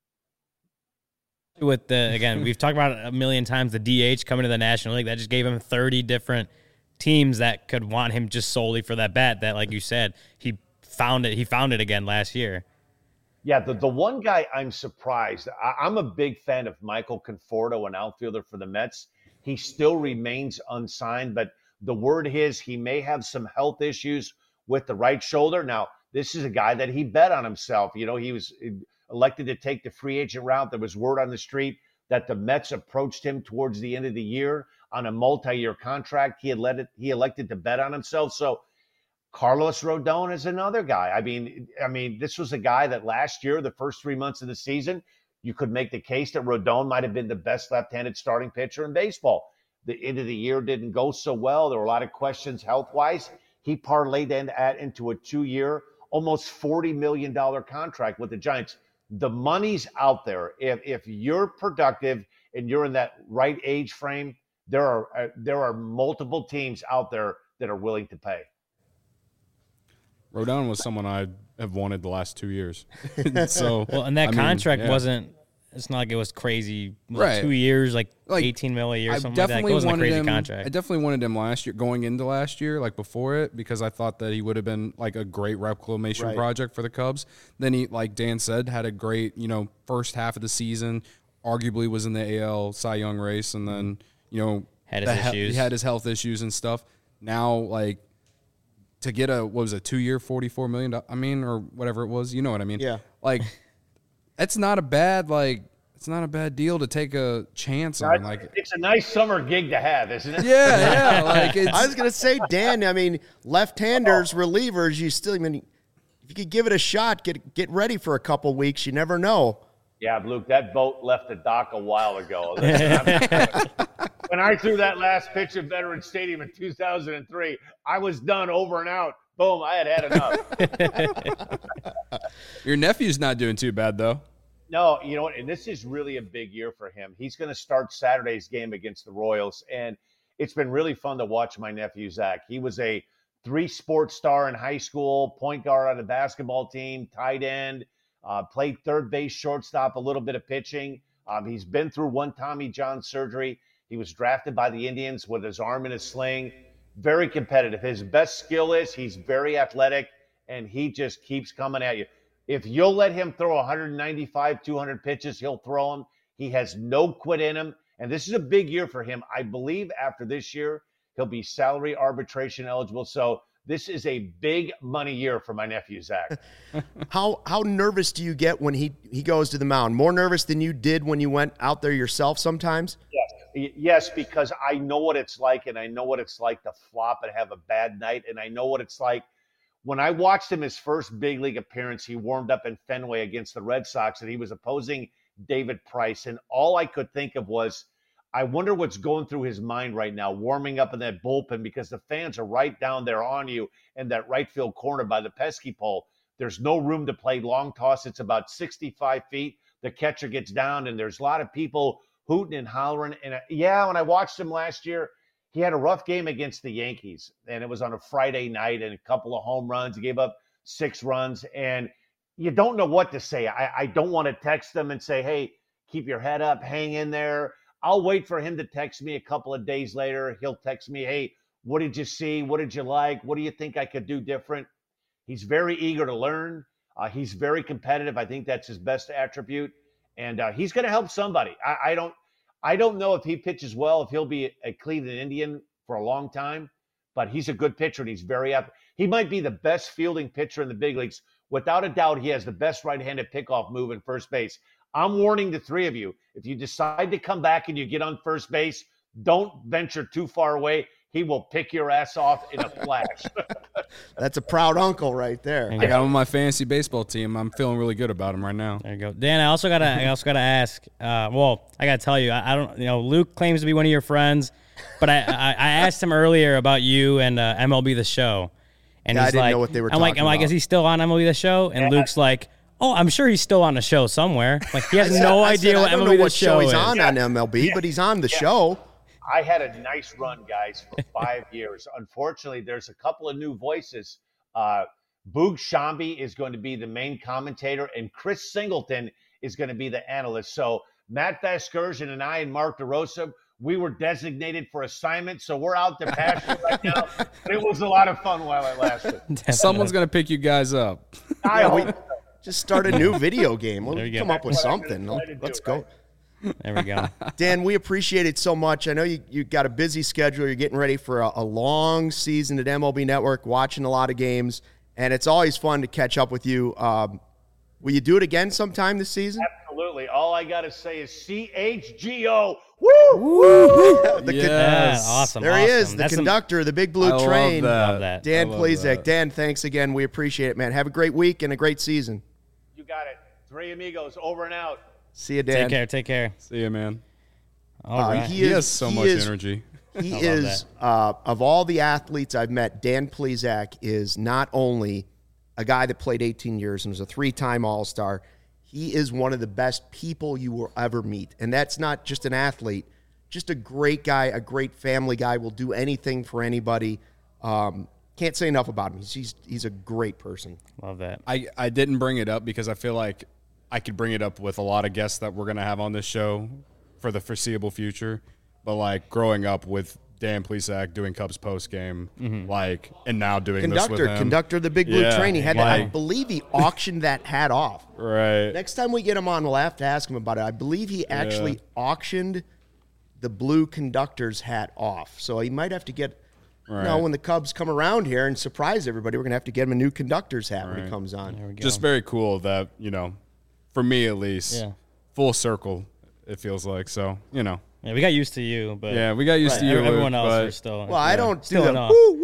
With again, we've talked about it a million times, the DH coming to the National League. That just gave him 30 different teams that could want him just solely for that bat that, like you said, he found it again last year. Yeah, the one guy I'm surprised, I'm a big fan of Michael Conforto, an outfielder for the Mets. He still remains unsigned, but the word is he may have some health issues with the right shoulder. Now, this is a guy that he bet on himself. You know, he was elected to take the free agent route. There was word on the street that the Mets approached him towards the end of the year on a multi-year contract. He elected to bet on himself. So Carlos Rodon is another guy. I mean, this was a guy that last year, the first 3 months of the season, you could make the case that Rodon might have been the best left-handed starting pitcher in baseball. The end of the year didn't go so well. There were a lot of questions health-wise. He parlayed that into a 2-year, almost $40 million contract with the Giants. The money's out there. If you're productive and you're in that right age frame, there are multiple teams out there that are willing to pay. Rodon was someone I have wanted the last 2 years. So well, and that contract wasn't. It's not like it was crazy. Right. 2 years, like $18 million a year, something like that. It wasn't a crazy contract. I definitely wanted him last year, going into last year, like before it, because I thought that he would have been like a great reclamation project for the Cubs. Then he, like Dan said, had a great, first half of the season. Arguably was in the AL Cy Young race, and then had his issues. He had his health issues and stuff. Now, like, to get a 2-year, $44 million, or whatever it was, you know what I mean? Yeah. Like, it's not a bad deal to take a chance on. Like, it's a nice summer gig to have, isn't it? Yeah. Like, I was gonna say, Dan. I mean, left-handers, relievers. You still, if you could give it a shot, get ready for a couple weeks. You never know. Yeah, Luke, that boat left the dock a while ago. When I threw that last pitch at Veterans Stadium in 2003, I was done, over and out. Boom, I had enough. Your nephew's not doing too bad, though. No, you know what? And this is really a big year for him. He's going to start Saturday's game against the Royals, and it's been really fun to watch my nephew, Zach. He was a 3-sport star in high school, point guard on the basketball team, tight end, played third base, shortstop, a little bit of pitching. He's been through one Tommy John surgery. He was drafted by the Indians with his arm in a sling. Very competitive. His best skill is he's very athletic, and he just keeps coming at you. If you'll let him throw 195, 200 pitches, he'll throw them. He has no quit in him, and this is a big year for him. I believe after this year, he'll be salary arbitration eligible. So this is a big money year for my nephew, Zach. How nervous do you get when he goes to the mound? More nervous than you did when you went out there yourself sometimes? Yes, because I know what it's like, and I know what it's like to flop and have a bad night, and I know what it's like. When I watched him his first big league appearance, he warmed up in Fenway against the Red Sox, and he was opposing David Price, and all I could think of was, I wonder what's going through his mind right now, warming up in that bullpen, because the fans are right down there on you in that right field corner by the pesky pole. There's no room to play long toss. It's about 65 feet. The catcher gets down, and there's a lot of people hooting and hollering. And when I watched him last year, he had a rough game against the Yankees, and it was on a Friday night, and a couple of home runs. He gave up 6 runs, and you don't know what to say. I don't want to text them and say, hey, keep your head up, hang in there. I'll wait for him to text me a couple of days later. He'll text me, hey, what did you see? What did you like? What do you think I could do different? He's very eager to learn. He's very competitive. I think that's his best attribute. And he's going to help somebody. I don't know if he pitches well, if he'll be a Cleveland Indian for a long time, but he's a good pitcher, and he's he might be the best fielding pitcher in the big leagues. Without a doubt, he has the best right-handed pickoff move in first base. I'm warning the 3 of you, if you decide to come back and you get on first base, don't venture too far away. He will pick your ass off in a flash. That's a proud uncle right there. I got him on my fantasy baseball team. I'm feeling really good about him right now. There you go, Dan. I also gotta ask. I gotta tell you, I don't. Luke claims to be one of your friends, but I asked him earlier about you and MLB The Show, and I he's didn't like, know what they were I'm talking like, about. is he still on MLB The Show? And Luke's like, oh, I'm sure he's still on the show somewhere. Like he has no idea what I don't MLB know The what show he's is. on MLB, but he's on the show. I had a nice run, guys, for 5 years. Unfortunately, there's a couple of new voices. Boog Shambi is going to be the main commentator, and Chris Singleton is going to be the analyst. So Matt Vasgersian and I and Mark DeRosa, we were designated for assignment, so we're out to pasture right now. But it was a lot of fun while it lasted. Someone's going to pick you guys up. I Just start a new video game. We'll There you go. come up with something. Let's go. There we go. Dan, we appreciate it so much. I know you got a busy schedule. You're getting ready for a long season at MLB Network, watching a lot of games, and it's always fun to catch up with you. Will you do it again sometime this season? Absolutely. All I got to say is CHGO. Woo! Yes. Awesome. There he is, the That's conductor, the big blue I train. Love that. Dan I love Plesac. that. Dan, thanks again. We appreciate it, man. Have a great week and a great season. You got it. 3 amigos, over and out. See you, Dan. Take care. See you, man. All right. He has so much energy. He is, of all the athletes I've met, Dan Plesac is not only a guy that played 18 years and was a 3-time All-Star, he is one of the best people you will ever meet. And that's not just an athlete, just a great guy, a great family guy, will do anything for anybody. Can't say enough about him. He's a great person. Love that. I didn't bring it up because I feel like I could bring it up with a lot of guests that we're going to have on this show for the foreseeable future. But, like, growing up with Dan Plesac doing Cubs postgame, and now doing this with him. Conductor of the Big Blue Yeah, Train. He had to, like- I believe he auctioned that hat off. Right. Next time we get him on, we'll have to ask him about it. I believe he actually auctioned the blue conductor's hat off. So he might have to get, when the Cubs come around here and surprise everybody, we're going to have to get him a new conductor's hat when he comes on. There we go. Just very cool that, for me at least, Yeah. full circle, it feels like. So, Yeah, we got used to you, but Yeah, we got used to you, Everyone Luke, else but- are still. Well, I don't do Still the in awe.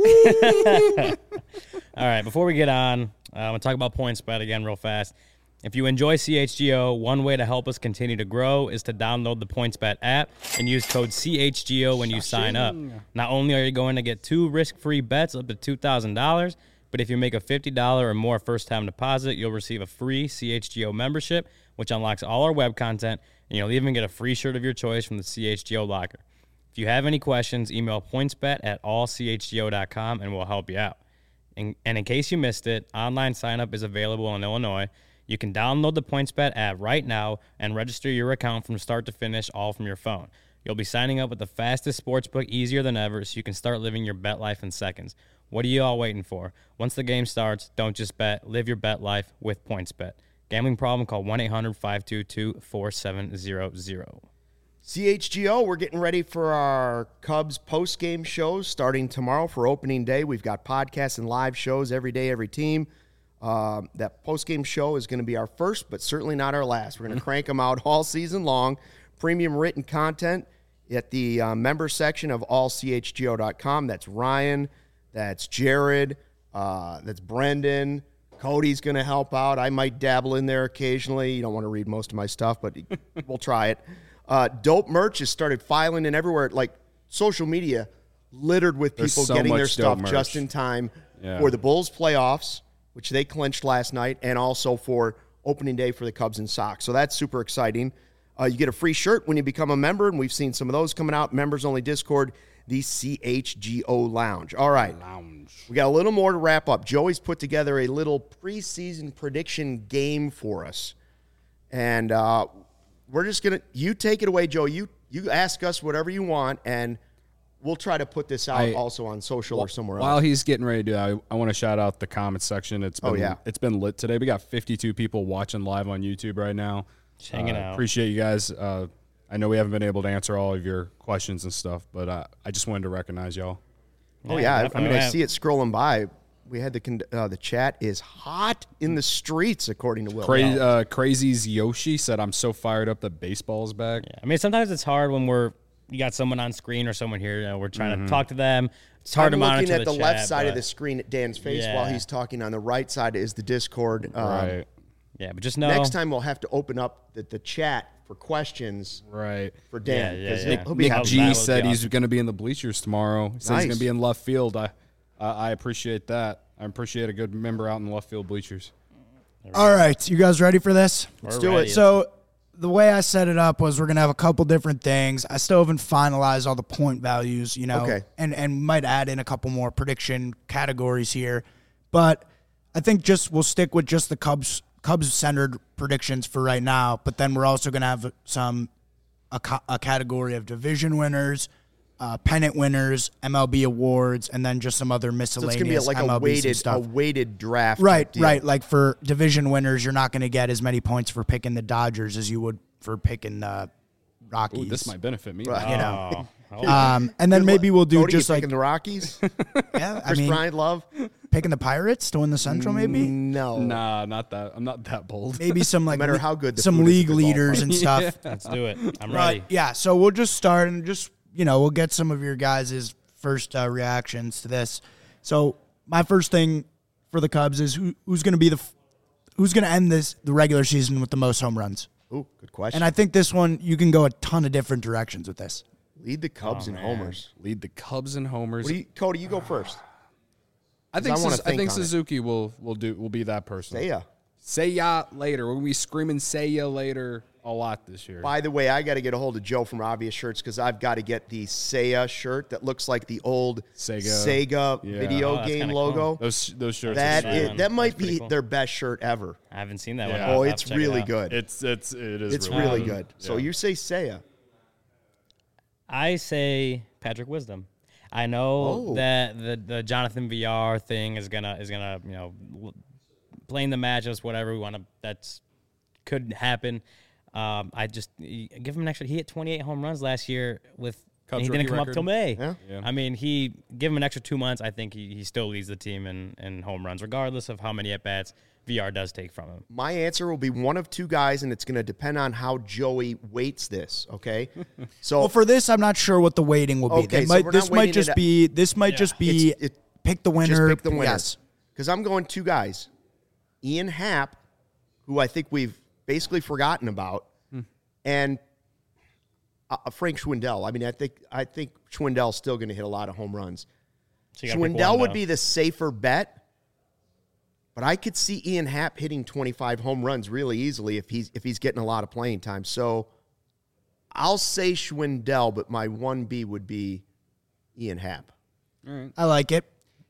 All right, before we get on, I'm going to talk about PointsBet again real fast. If you enjoy CHGO, one way to help us continue to grow is to download the PointsBet app and use code CHGO when you sign up. Not only are you going to get 2 risk-free bets up to $2,000, but if you make a $50 or more first-time deposit, you'll receive a free CHGO membership, which unlocks all our web content, and you'll even get a free shirt of your choice from the CHGO locker. If you have any questions, email pointsbet@allchgo.com and we'll help you out. And in case you missed it, online sign-up is available in Illinois. You can download the PointsBet app right now and register your account from start to finish, all from your phone. You'll be signing up with the fastest sportsbook easier than ever, so you can start living your bet life in seconds. What are you all waiting for? Once the game starts, don't just bet. Live your bet life with PointsBet. Gambling problem? Call 1-800-522-4700. CHGO, we're getting ready for our Cubs post-game shows starting tomorrow for opening day. We've got podcasts and live shows every day, every team. That post-game show is going to be our first, but certainly not our last. We're going to crank them out all season long. Premium written content at the member section of allchgo.com. That's Ryan, that's Jared, that's Brendan. Cody's going to help out. I might dabble in there occasionally. You don't want to read most of my stuff, but we'll try it. Dope merch has started filing in everywhere, like social media littered with people so getting their much stuff dope just merch. in time Yeah. for the Bulls playoffs, which they clinched last night, and also for opening day for the Cubs and Sox. So that's super exciting. You get a free shirt when you become a member, and we've seen some of those coming out. Members-only Discord, the CHGO Lounge. All right. We got a little more to wrap up. Joey's put together a little preseason prediction game for us. And we're just going to – you take it away, Joe. You ask us whatever you want, and we'll try to put this out also on social or somewhere While else. he's getting ready to do that, I want to shout out the comments section. It's been lit today. We got 52 people watching live on YouTube right now. Just hanging out. Appreciate you guys. I know we haven't been able to answer all of your questions and stuff, but I just wanted to recognize y'all. Oh, yeah. I definitely. mean, I see it scrolling by. We had the chat is hot in the streets, according to Will. Crazy's Yoshi said, "I'm so fired up that baseball's back." Yeah. I mean, sometimes it's hard when you got someone on screen or someone here. You know, we're trying to talk to them. It's hard to monitor looking at the chat, left side of but- the screen at Dan's face Yeah. while he's talking. On the right side is the Discord. Right. Yeah, but just know Next time we'll have to open up the chat for questions Right. for Dan. Yeah, 'cause yeah. he'll be Nick happy. G That would said be he's awesome. going to be in the bleachers tomorrow. He said he's Nice. going to be in left field. I appreciate that. I appreciate a good member out in the left field bleachers. All right, you guys ready for this? Let's do it. So the way I set it up was we're gonna have a couple different things. I still haven't finalized all the point values, Okay. and might add in a couple more prediction categories here, but I think we'll stick with just the Cubs centered predictions for right now. But then we're also gonna have a category of division winners, pennant winners, MLB awards, and then just some other So miscellaneous it's going to be like MLB stuff. a weighted draft. Right, type deal. right. Like for division winners, you're not going to get as many points for picking the Dodgers as you would for picking the Rockies. Ooh, this might benefit me. Right. you know. Oh, And then maybe we'll do Cody, just you like picking the Rockies. yeah, I Chris mean Bryant, love. picking the Pirates to win the Central, maybe No, Nah, not that. I'm not that bold. maybe some like No matter how good the some food is at league the leaders ballpark. and stuff. let's do it. I'm But ready. yeah, so we'll just start and just we'll get some of your guys' first reactions to this. So my first thing for the Cubs is who's going to be who's going to end the regular season with the most home runs. Ooh, good question. And I think this one you can go a ton of different directions with this. Lead the Cubs in homers. Lead the Cubs and homers. Cody, you go first. I think I wanna I think think on it. Suzuki will be that person. Say ya. Say ya later. We're gonna be screaming "Say ya later" a lot this year. By the way, I got to get a hold of Joe from Obvious Shirts because I've got to get the Seiya shirt that looks like the old Sega Yeah. video Oh, that's game kinda logo. Those shirts. That are is, sweet. that might pretty be cool. their best shirt ever. I haven't seen that Yeah. one. Oh, I'll have it's to check it really out. good. It is. It's really really good. good. So Yeah. you say Seiya. I say Patrick Wisdom. I know that the Jonathan VR thing is gonna playing the matchups, whatever we want to. That's could happen. I just give him an extra. He hit 28 home runs last year with. Cubs He didn't rookie come up record. till May. Yeah. Yeah. I mean, he give him an extra 2 months. I think he still leads the team in home runs, regardless of how many at bats VR does take from him. My answer will be one of two guys, and it's going to depend on how Joey weights this. Okay, so Well, for this, I'm not sure what the weighting will be. Okay, They so might, we're this not might weighting just it- be. This might just be pick the winner. just pick the winner. Yes. Because I'm going two guys, Ian Happ, who I think we've basically forgotten about, and Frank Schwindel. I mean, I think Schwindel's still going to hit a lot of home runs. So you gotta pick Schwindel one, would though. be the safer bet, but I could see Ian Happ hitting 25 home runs really easily if he's getting a lot of playing time. So I'll say Schwindel, but my 1B would be Ian Happ. I like it.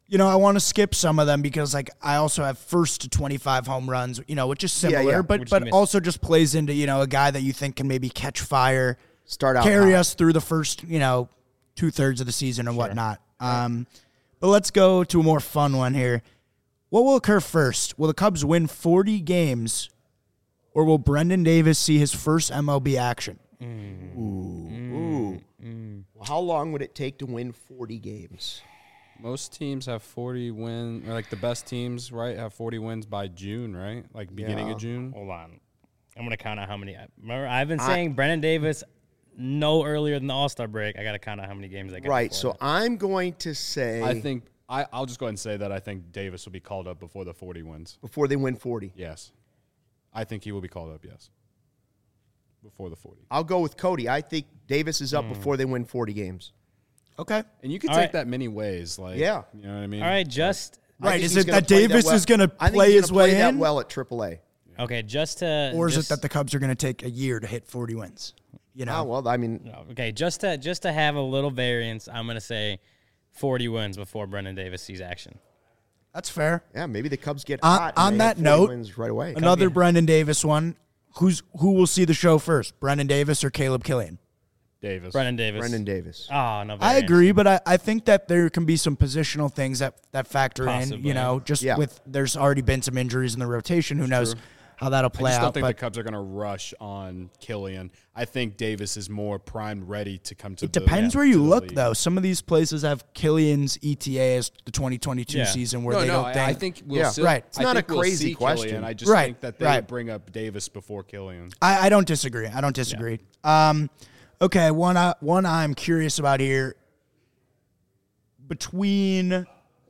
I want to skip some of them because like I also have first to 25 home runs, which is similar, yeah. but also just plays into, a guy that you think can maybe catch fire, Start out carry hot. us through the first, 2/3 of the season and whatnot. But let's go to a more fun one here. What will occur first? Will the Cubs win 40 games or will Brendan Davis see his first MLB action? Ooh. Well, how long would it take to win 40 games? Most teams have 40 wins, or like the best teams, right, have 40 wins by June, right? Like beginning of June. Hold on. I'm going to count out how many. Remember, I've been saying Brendan Davis no earlier than the All-Star break. I got to count out how many games they got. Right, before so that. I'm going to say I'll just go ahead and say that I think Davis will be called up before the 40 wins. before they win 40. Yes. I think he will be called up, yes. Before the 40. I'll go with Cody. I think Davis is up before they win 40 games. Okay. And you can All take right. that many ways. Like, Yeah. You know what I mean? All right, just I Right, think is he's it gonna that play Davis is going to I think play he's his gonna play way that in? well at AAA. okay. Just to Or is just, it that the Cubs are going to take a year to hit 40 wins? Oh, well, I mean, okay? Just to have a little variance, I'm going to say 40 wins before Brendan Davis sees action. That's fair. yeah, maybe the Cubs get On- hot. on and they that have 40 note, wins right away. Another Brendan Davis one. Who will see the show first, Brendan Davis or Caleb Killian? Davis. Brendan Davis. Brendan Davis. Oh, no. I variance. agree, but I think that there can be some positional things that factor Possibly. in, just Yeah. with there's already been some injuries in the rotation. Who knows how that'll I play just out. don't think the But Cubs are going to rush on Killian. I think Davis is more primed, ready to come to it depends the, where you to the look, league. though. Some of these places have Killian's ETA as the 2022 Yeah. season where No, they no, don't think. I think we'll Yeah. still, Right. It's not I think a we'll crazy see question. Killian. I just Right, think that they right. would bring up Davis before Killian. I don't disagree. I don't disagree. Okay, one I'm curious about here. Between,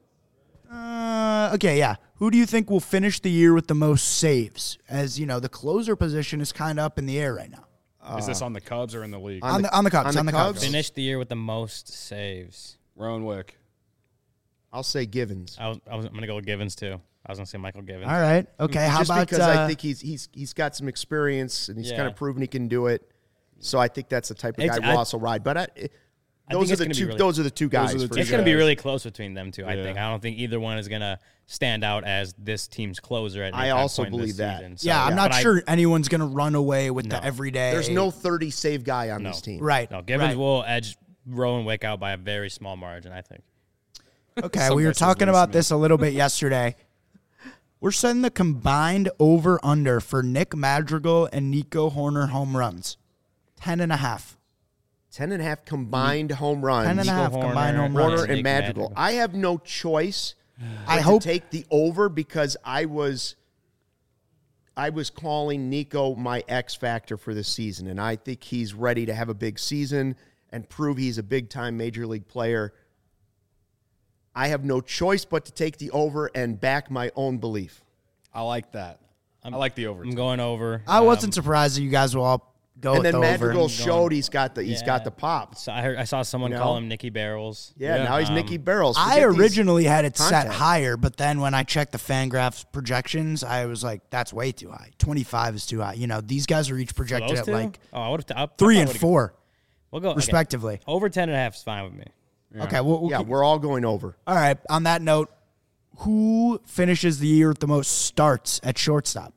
who do you think will finish the year with the most saves? As you know, the closer position is kind of up in the air right now. Is this on the Cubs or in the league? On the Cubs. On the Cubs. Finished the year with the most saves. Rowan Wick. I'll say Givens. I'm going to go with Givens, too. I was going to say Michael Givens. All right. Okay. How Just about because I think he's got some experience and he's Yeah. kind of proven he can do it. So I think that's the type of It's- guy Ross will ride. But those think are it's the gonna be two. really- Those are the two guys. are the for two It's sure. going to be guys. really close between them two, I Yeah. think. I don't think either one is going to stand out as this team's closer at any I time also point this believe that. season. So, yeah, I'm not but sure anyone's going to run away with the No. everyday. There's no 30 save guy on this team. right. No, Givens right. will edge Rowan Wick out by a very small margin, I think. Okay, Some we were guy says talking Lee about Smith. this a little bit yesterday. We're setting the combined over-under for Nick Madrigal and Nico Horner home runs. 10.5. 10.5 combined home runs. 10.5 Horner, combined home Warner runs. and Nick Madrigal. Madrigal. I have no choice I but hope to take the over because I was calling Nico my X factor for this season, and I think he's ready to have a big season and prove he's a big-time major league player. I have no choice but to take the over and back my own belief. I like that. I like the over. I'm going over. I wasn't surprised that you guys will all go And with then the Madrigal over. showed he's got the pop. So I saw someone You know? call him Nicky Barrels. Yeah, now he's Nicky Barrels. I Forget these- originally had it set contests. higher, but then when I checked the Fangraphs projections, I was like, that's way too high. 25 is too high. You know, these guys are each projected Those at two? like I would have 3 and 4, We'll go okay. respectively. Over 10.5 is fine with me. Okay, well, Yeah, we're all going over. all right. On that note, who finishes the year with the most starts at shortstop?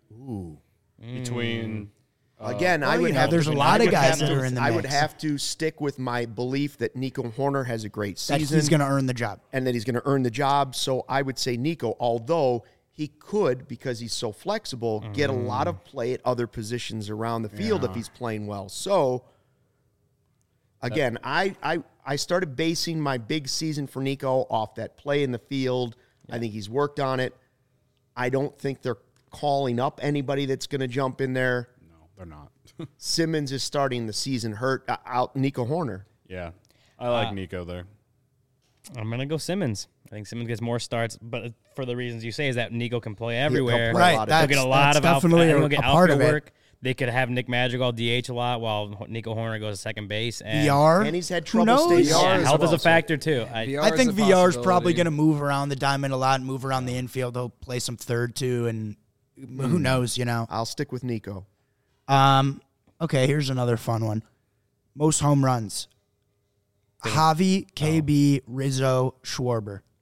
Between Again, I well, would you know, have. there's a to- lot I of would guys have that to- are in the I would mix. have to stick with my belief that Nico Horner has a great That season he's going to earn the job. and that he's going to earn the job. So I would say Nico, although he could, because he's so flexible, get a lot of play at other positions around the field if he's playing well. So again, I started basing my big season for Nico off that play in the field. I think he's worked on it. I don't think they're calling up anybody that's going to jump in there. no, they're not. Simmons is starting the season hurt out Nico Horner. Yeah, I like Nico there. I'm going to go Simmons. I think Simmons gets more starts, but for the reasons you say is that Nico can play everywhere. play a Right, lot of- He'll that's, get a lot that's of definitely he'll a get part of outfield it. work. They could have Nick Madrigal DH a lot while Nico Horner goes to second base. And VR, And he's had who trouble staying knows? healthy. yeah, as health is well, a so- factor too. I think VR is probably going to move around the diamond a lot, move around the infield. He'll play some third too, and who knows, you know. I'll stick with Nico. Okay, here's another fun one. Most home runs. Javi, KB, Rizzo, Schwarber.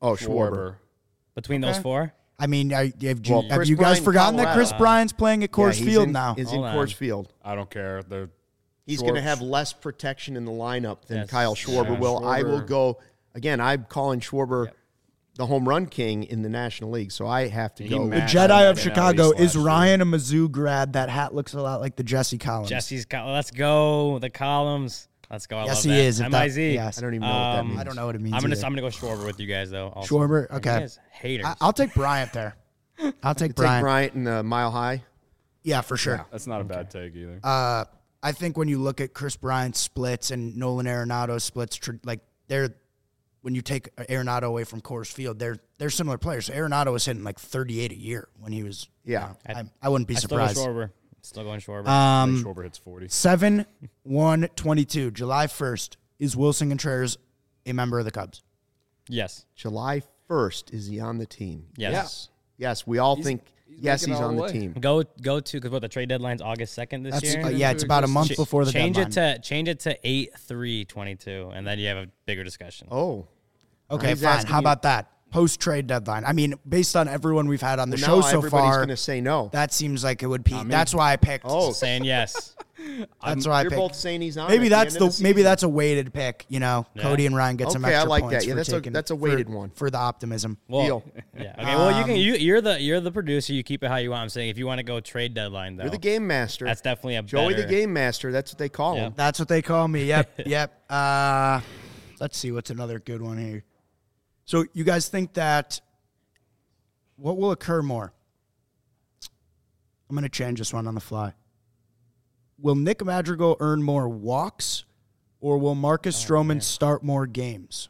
Oh, Schwarber. Between those four? I mean, have you Chris guys Bryant, forgotten that Chris Colorado. Bryant's playing at Coors he's Field in, now? Is in Hold on. Coors Field. I don't care. He's going to have less protection in the lineup than Yes. Kyle Schwarber Yeah, will. I will Schwarber. go again. I'm calling Schwarber the home run king in the National League, so I have to He go. The matched Jedi of in Chicago East is last year. Ryan a Mizzou grad. That hat looks a lot like the Jesse Collins. Let's go. The columns. Let's go. I Yes, love he that. is. If that- MIZ. yes. I don't even know what that means. I don't know what it means. I'm either. gonna go Schwarber with you guys though. Also. Schwarber. You Okay, guys haters. I'll take Bryant there. I'll take Take Bryant. Bryant in the Mile High. Yeah, for sure. That's not a bad take either. I think when you look at Chris Bryant's splits and Nolan Arenado's splits, when you take Arenado away from Coors Field, they're similar players. So Arenado was hitting like 38 a year when he was. Yeah. I wouldn't be I still go surprised. Schwarber. Still going Schwarber. Schwarber hits 40. 7-1-22, July 1st. Is Wilson Contreras a member of the Cubs? yes. July 1st, is he on the team? Yes. Yes, we all think yes, making he's it on all the the way. team. Go to because what the trade deadline's August 2nd this That's year. yeah, it's about a month before the change deadline. Change it to 8/3/22, and then you have a bigger discussion. Oh. Okay, He's fine. asking How you- about that? Post-trade deadline. I mean, based on everyone we've had on the Well, show now so everybody's far, going to say no. that seems like it would be. That's why I picked. Oh, Saying yes. that's why I you're picked. both saying he's on. Maybe at that's the, end of the maybe season. that's a weighted pick. You know, Cody and Ryan get some Okay, I extra like points that. Yeah, for taking, that's a weighted one. for the optimism. Well, Deal. Yeah. Okay. Well, you can. You're the producer. You keep it how you want. I'm saying if you want to go trade deadline though, You're the game master. that's definitely a Joey better, the game master. That's what they call Yeah. him. That's what they call me. Yep, yep. Let's see what's another good one here. So you guys think that what will occur more? I'm going to change this one on the fly. Will Nick Madrigal earn more walks, or will Marcus Stroman start more games?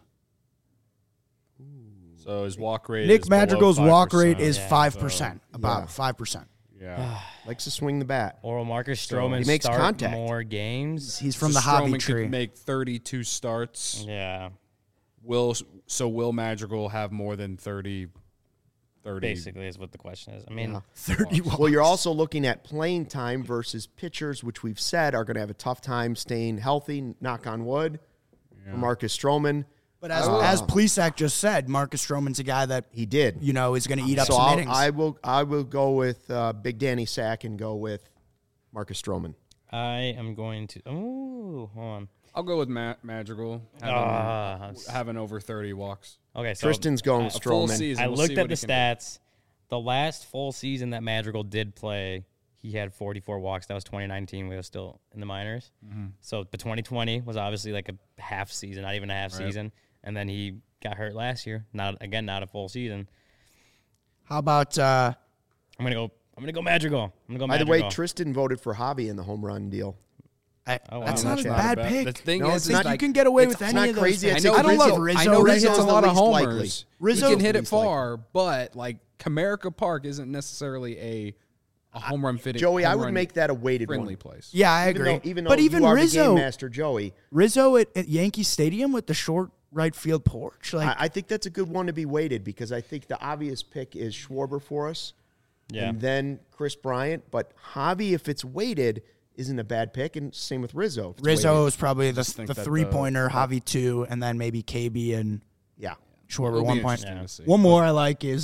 So his walk rate Nick is below Madrigal's walk 5%. rate is Yeah. 5%, about 5%. Yeah. Likes to swing the bat. Or will Marcus Stroman He makes start contact. more games? He's from So the hobby Stroman tree. could make 32 starts. Yeah. Will Madrigal have more than 30? Basically, is what the question is. I mean, 30 walks. Well, you're also looking at playing time versus pitchers, which we've said are going to have a tough time staying healthy. Knock on wood. For Marcus Stroman, But as Plesac just said, Marcus Stroman's a guy that he did. is going to eat up So some innings. I will go with Big Danny Sack and go with Marcus Stroman. I am going to. Oh, hold on. I'll go with Madrigal having over 30 walks. Okay, so Tristan's going with A full Stroman. season. I We'll looked see at what the he can do. stats. The last full season that Madrigal did play, he had 44 walks. That was 2019. We were still in the minors. So, but 2020 was obviously like a half season, not even a half season. And then he got hurt last year. Not a full season. How about I'm gonna go Madrigal. I'm gonna go By the Madrigal. way, Tristan voted for Javi in the home run deal. wow. that's not a Not bad The pick. thing No, is, it's Think not- you can get away with it's any not of those crazy. picks. I know I don't Rizzo- love Rizzo. I know he Rizzo's hits a the lot of least likely. homers. Rizzo- He can hit it least far, but like Comerica Park isn't necessarily a home run fitting. Joey, I home would run make that a weighted friendly one. place. Yeah, I Even agree. though, even but though even you are Rizzo, the game master, Joey, at Yankee Stadium with the short right field porch, like I think that's a good one to be weighted because I think the obvious pick is Schwarber for us. Yeah. And then Chris Bryant. But Javi, if it's weighted, isn't a bad pick. And same with Rizzo. if it's Rizzo weighted. is probably the think that 3-pointer, Javi 2, and then maybe KB and Yeah. Schwarber It'll be 1 point. interesting to see. One more I like is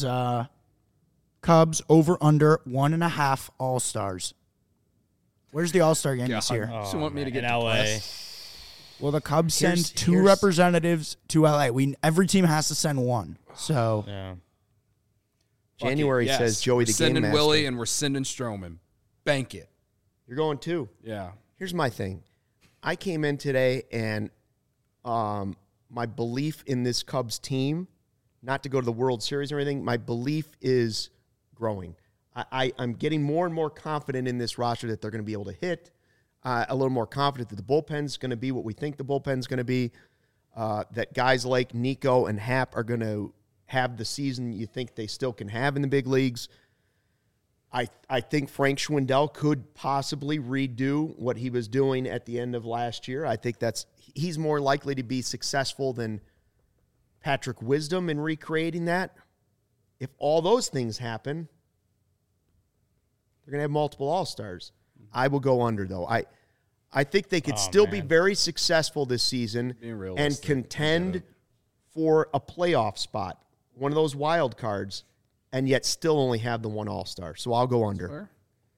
Cubs over under 1.5 All Stars. Where's the All Star game this year? You want me to get in LA? depressed? Well, the Cubs send Here's- two here's- representatives to LA. Every team has to send one. So Yeah. Fuck it, January yes. says Joey We're the game sending master. Willie and we're sending Stroman. Bank it. You're going too. Yeah. Here's my thing. I came in today and my belief in this Cubs team, not to go to the World Series or anything, my belief is growing. I'm getting more and more confident in this roster that they're going to be able to hit, a little more confident that the bullpen's going to be what we think the bullpen's going to be, that guys like Nico and Happ are going to have the season you think they still can have in the big leagues. I think Frank Schwindel could possibly redo what he was doing at the end of last year. I think he's more likely to be successful than Patrick Wisdom in recreating that. If all those things happen, they're going to have multiple All-Stars. I will go under, though. I think they could still be very successful this season Being and realistic, contend for a playoff spot. one of those wild cards, and yet still only have the one All-Star. So I'll go under. Fair.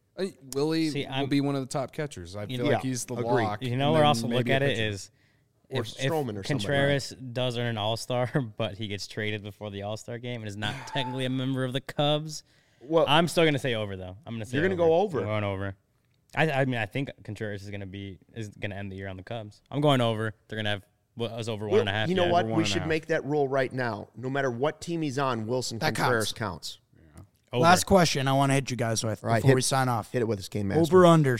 Willie will be one of the top catchers. I feel like he's the agreed. lock. You know, where also look at it is Or if Stroman or Contreras does earn an All-Star, but he gets traded before the All-Star game and is not technically a member of the Cubs. Well, I'm still going to say over, though. I'm going to say You're gonna go over. I'm going over. I mean, I think Contreras is going to end the year on the Cubs. I'm going over. They're going to have was over 1.5. You know yeah, what? over We 1.5. should make that rule right now. No matter what team he's on, Wilson That Contreras counts. Over. Last question I want to hit you guys with Right, before we sign off. Hit it with his game master. Over under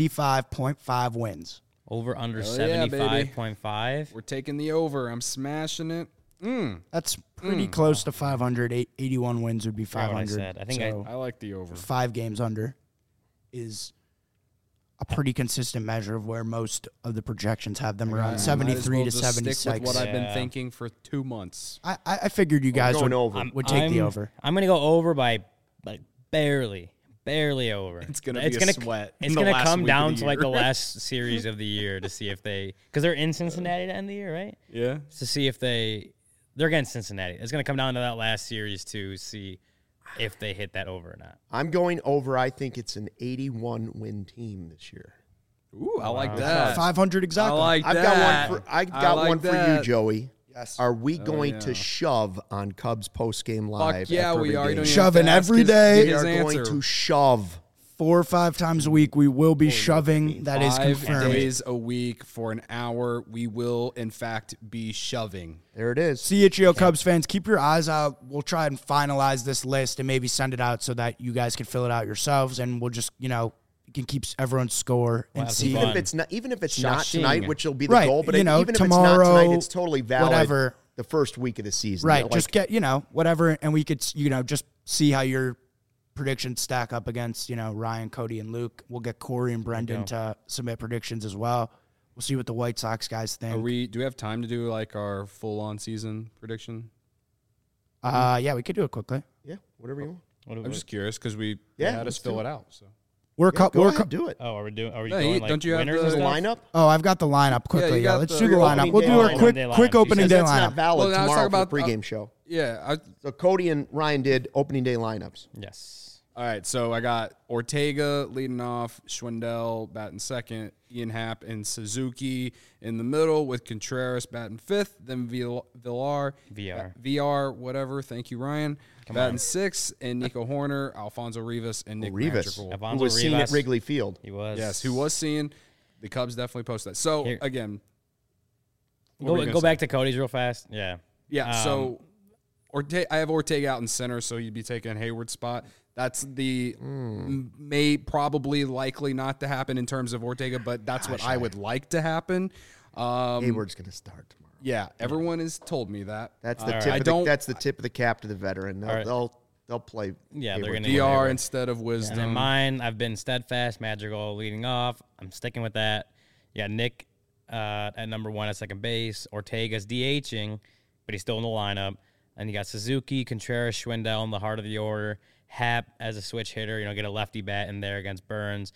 75.5 wins. Over under Hell yeah, baby. 75.5. We're taking the over. I'm smashing it. That's pretty close to 500. 81 wins would be Forgot what I 500. said. I think so I like the over. 5 games under is a pretty consistent measure of where most of the projections have them around Might as 73 well to just stick 76. with what I've been Yeah. thinking for 2 months. I figured you guys going would, over. would take the over. I'm going to go over by like barely over. It's gonna be a sweat in It's the going to last come week of down the to like the year. last series of the year to see if they, because they're in Cincinnati to end the year, right? Yeah. To see if they're against Cincinnati. It's going to come down to that last series to see if they hit that over or not. I'm going over. I think it's an 81 win team this year. Ooh, I like that. 500 I exactly. like I've that. got like one for you, that. Joey. Yes. Are we going yeah. to shove on Cubs post game live? Fuck yeah, after we every are. You game? don't even Shoving have to ask every his- day. We his are going answer. to shove. 4 or 5 times a week we will be shoving. That is 5 confirmed. days a week for an hour. We will, in fact, be shoving. There it is. CHGO Cubs fans, keep your eyes out. We'll try and finalize this list and maybe send it out so that you guys can fill it out yourselves, and we'll just, you can keep everyone's score and have some see. fun. Even if it's not Shushing. tonight, which will be the Right, goal, but you know, even tomorrow, if it's not tonight, it's totally valid. whatever. The first week of the season, Right, You know, just get, whatever, and we could, just see how your predictions stack up against, Ryan, Cody, and Luke. We'll get Corey and Brendan to submit predictions as well. We'll see what the White Sox guys think. Do we have time to do like our full on season prediction? Yeah, we could do it quickly. yeah, whatever you want. I'm just curious because they Yeah, had us let's fill do it out. So We're Yeah, go we're ahead, do it. Oh, are we No, going like don't you have winners the and The stuff? lineup. Oh, I've got the lineup quickly. you Yeah, got let's the- do the your lineup. opening We'll day do lineup. a Opening day quick lineup. opening Because day that's not lineup. valid Well, now let's tomorrow talk for the about- pregame show. yeah. So Cody and Ryan did opening day lineups. Yes. All right, so I got Ortega leading off, Schwindel batting second, Ian Happ and Suzuki in the middle with Contreras batting fifth, then VR, whatever. Thank you, Ryan. Batting sixth, and Nico Horner, Alfonso Rivas, and Nick Rivas, Madrigal. who Alfonso was seen at Rivas. Wrigley Field. He was. Yes, who was seeing the Cubs definitely posted that. So Here. again, what were you Go gonna say? back to Cody's real fast. Yeah. Yeah, so I have Ortega out in center, so you'd be taking Hayward's spot. That's the probably likely not to happen in terms of Ortega, but that's what I would like to happen. Hayward's going to start tomorrow. Yeah, everyone has told me that. That's the All tip. right. That's the tip of the cap to the veteran. All right. They'll play. Yeah, they're Hayward. gonna- DR instead of Wisdom. And in mine, I've been steadfast, Madrigal leading off. I'm sticking with that. You got Nick at number 1 at second base. Ortega's DHing, but he's still in the lineup. And you got Suzuki, Contreras, Schwindel in the heart of the order. Happ as a switch hitter, get a lefty bat in there against Burns.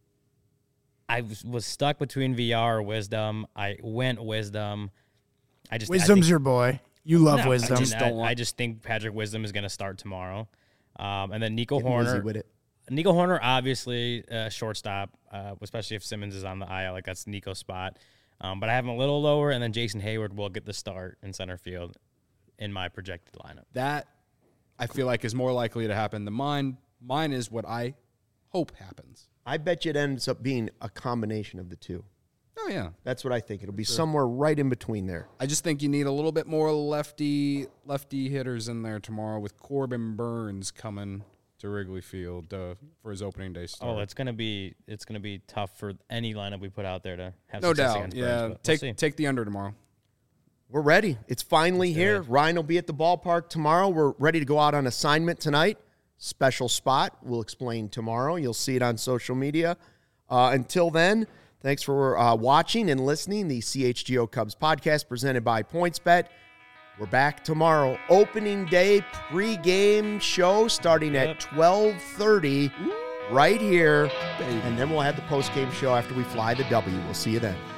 I was stuck between VR or Wisdom. I went Wisdom. Wisdom's your boy. You love Wisdom. I just think Patrick Wisdom is going to start tomorrow. And then Nico Getting wizzy Horner. with it. Nico Horner, obviously, shortstop, especially if Simmons is on the IL. Like, that's Nico's spot. But I have him a little lower, and then Jason Hayward will get the start in center field in my projected lineup. That I feel like is more likely to happen than mine. Mine is what I hope happens. I bet you it ends up being a combination of the two. Oh, yeah. That's what I think. It'll be somewhere right in between there. I just think you need a little bit more lefty hitters in there tomorrow with Corbin Burns coming to Wrigley Field for his opening day start. Oh, it's gonna be tough for any lineup we put out there to have no success doubt. against Yeah, Burns, but we'll see. take the under tomorrow. We're ready. It's finally here. Ryan will be at the ballpark tomorrow. We're ready to go out on assignment tonight. Special spot. We'll explain tomorrow. You'll see it on social media. Until then, thanks for watching and listening. The CHGO Cubs podcast presented by PointsBet. We're back tomorrow. Opening day pregame show starting at 12:30 right here. And then we'll have the postgame show after we fly the W. We'll see you then.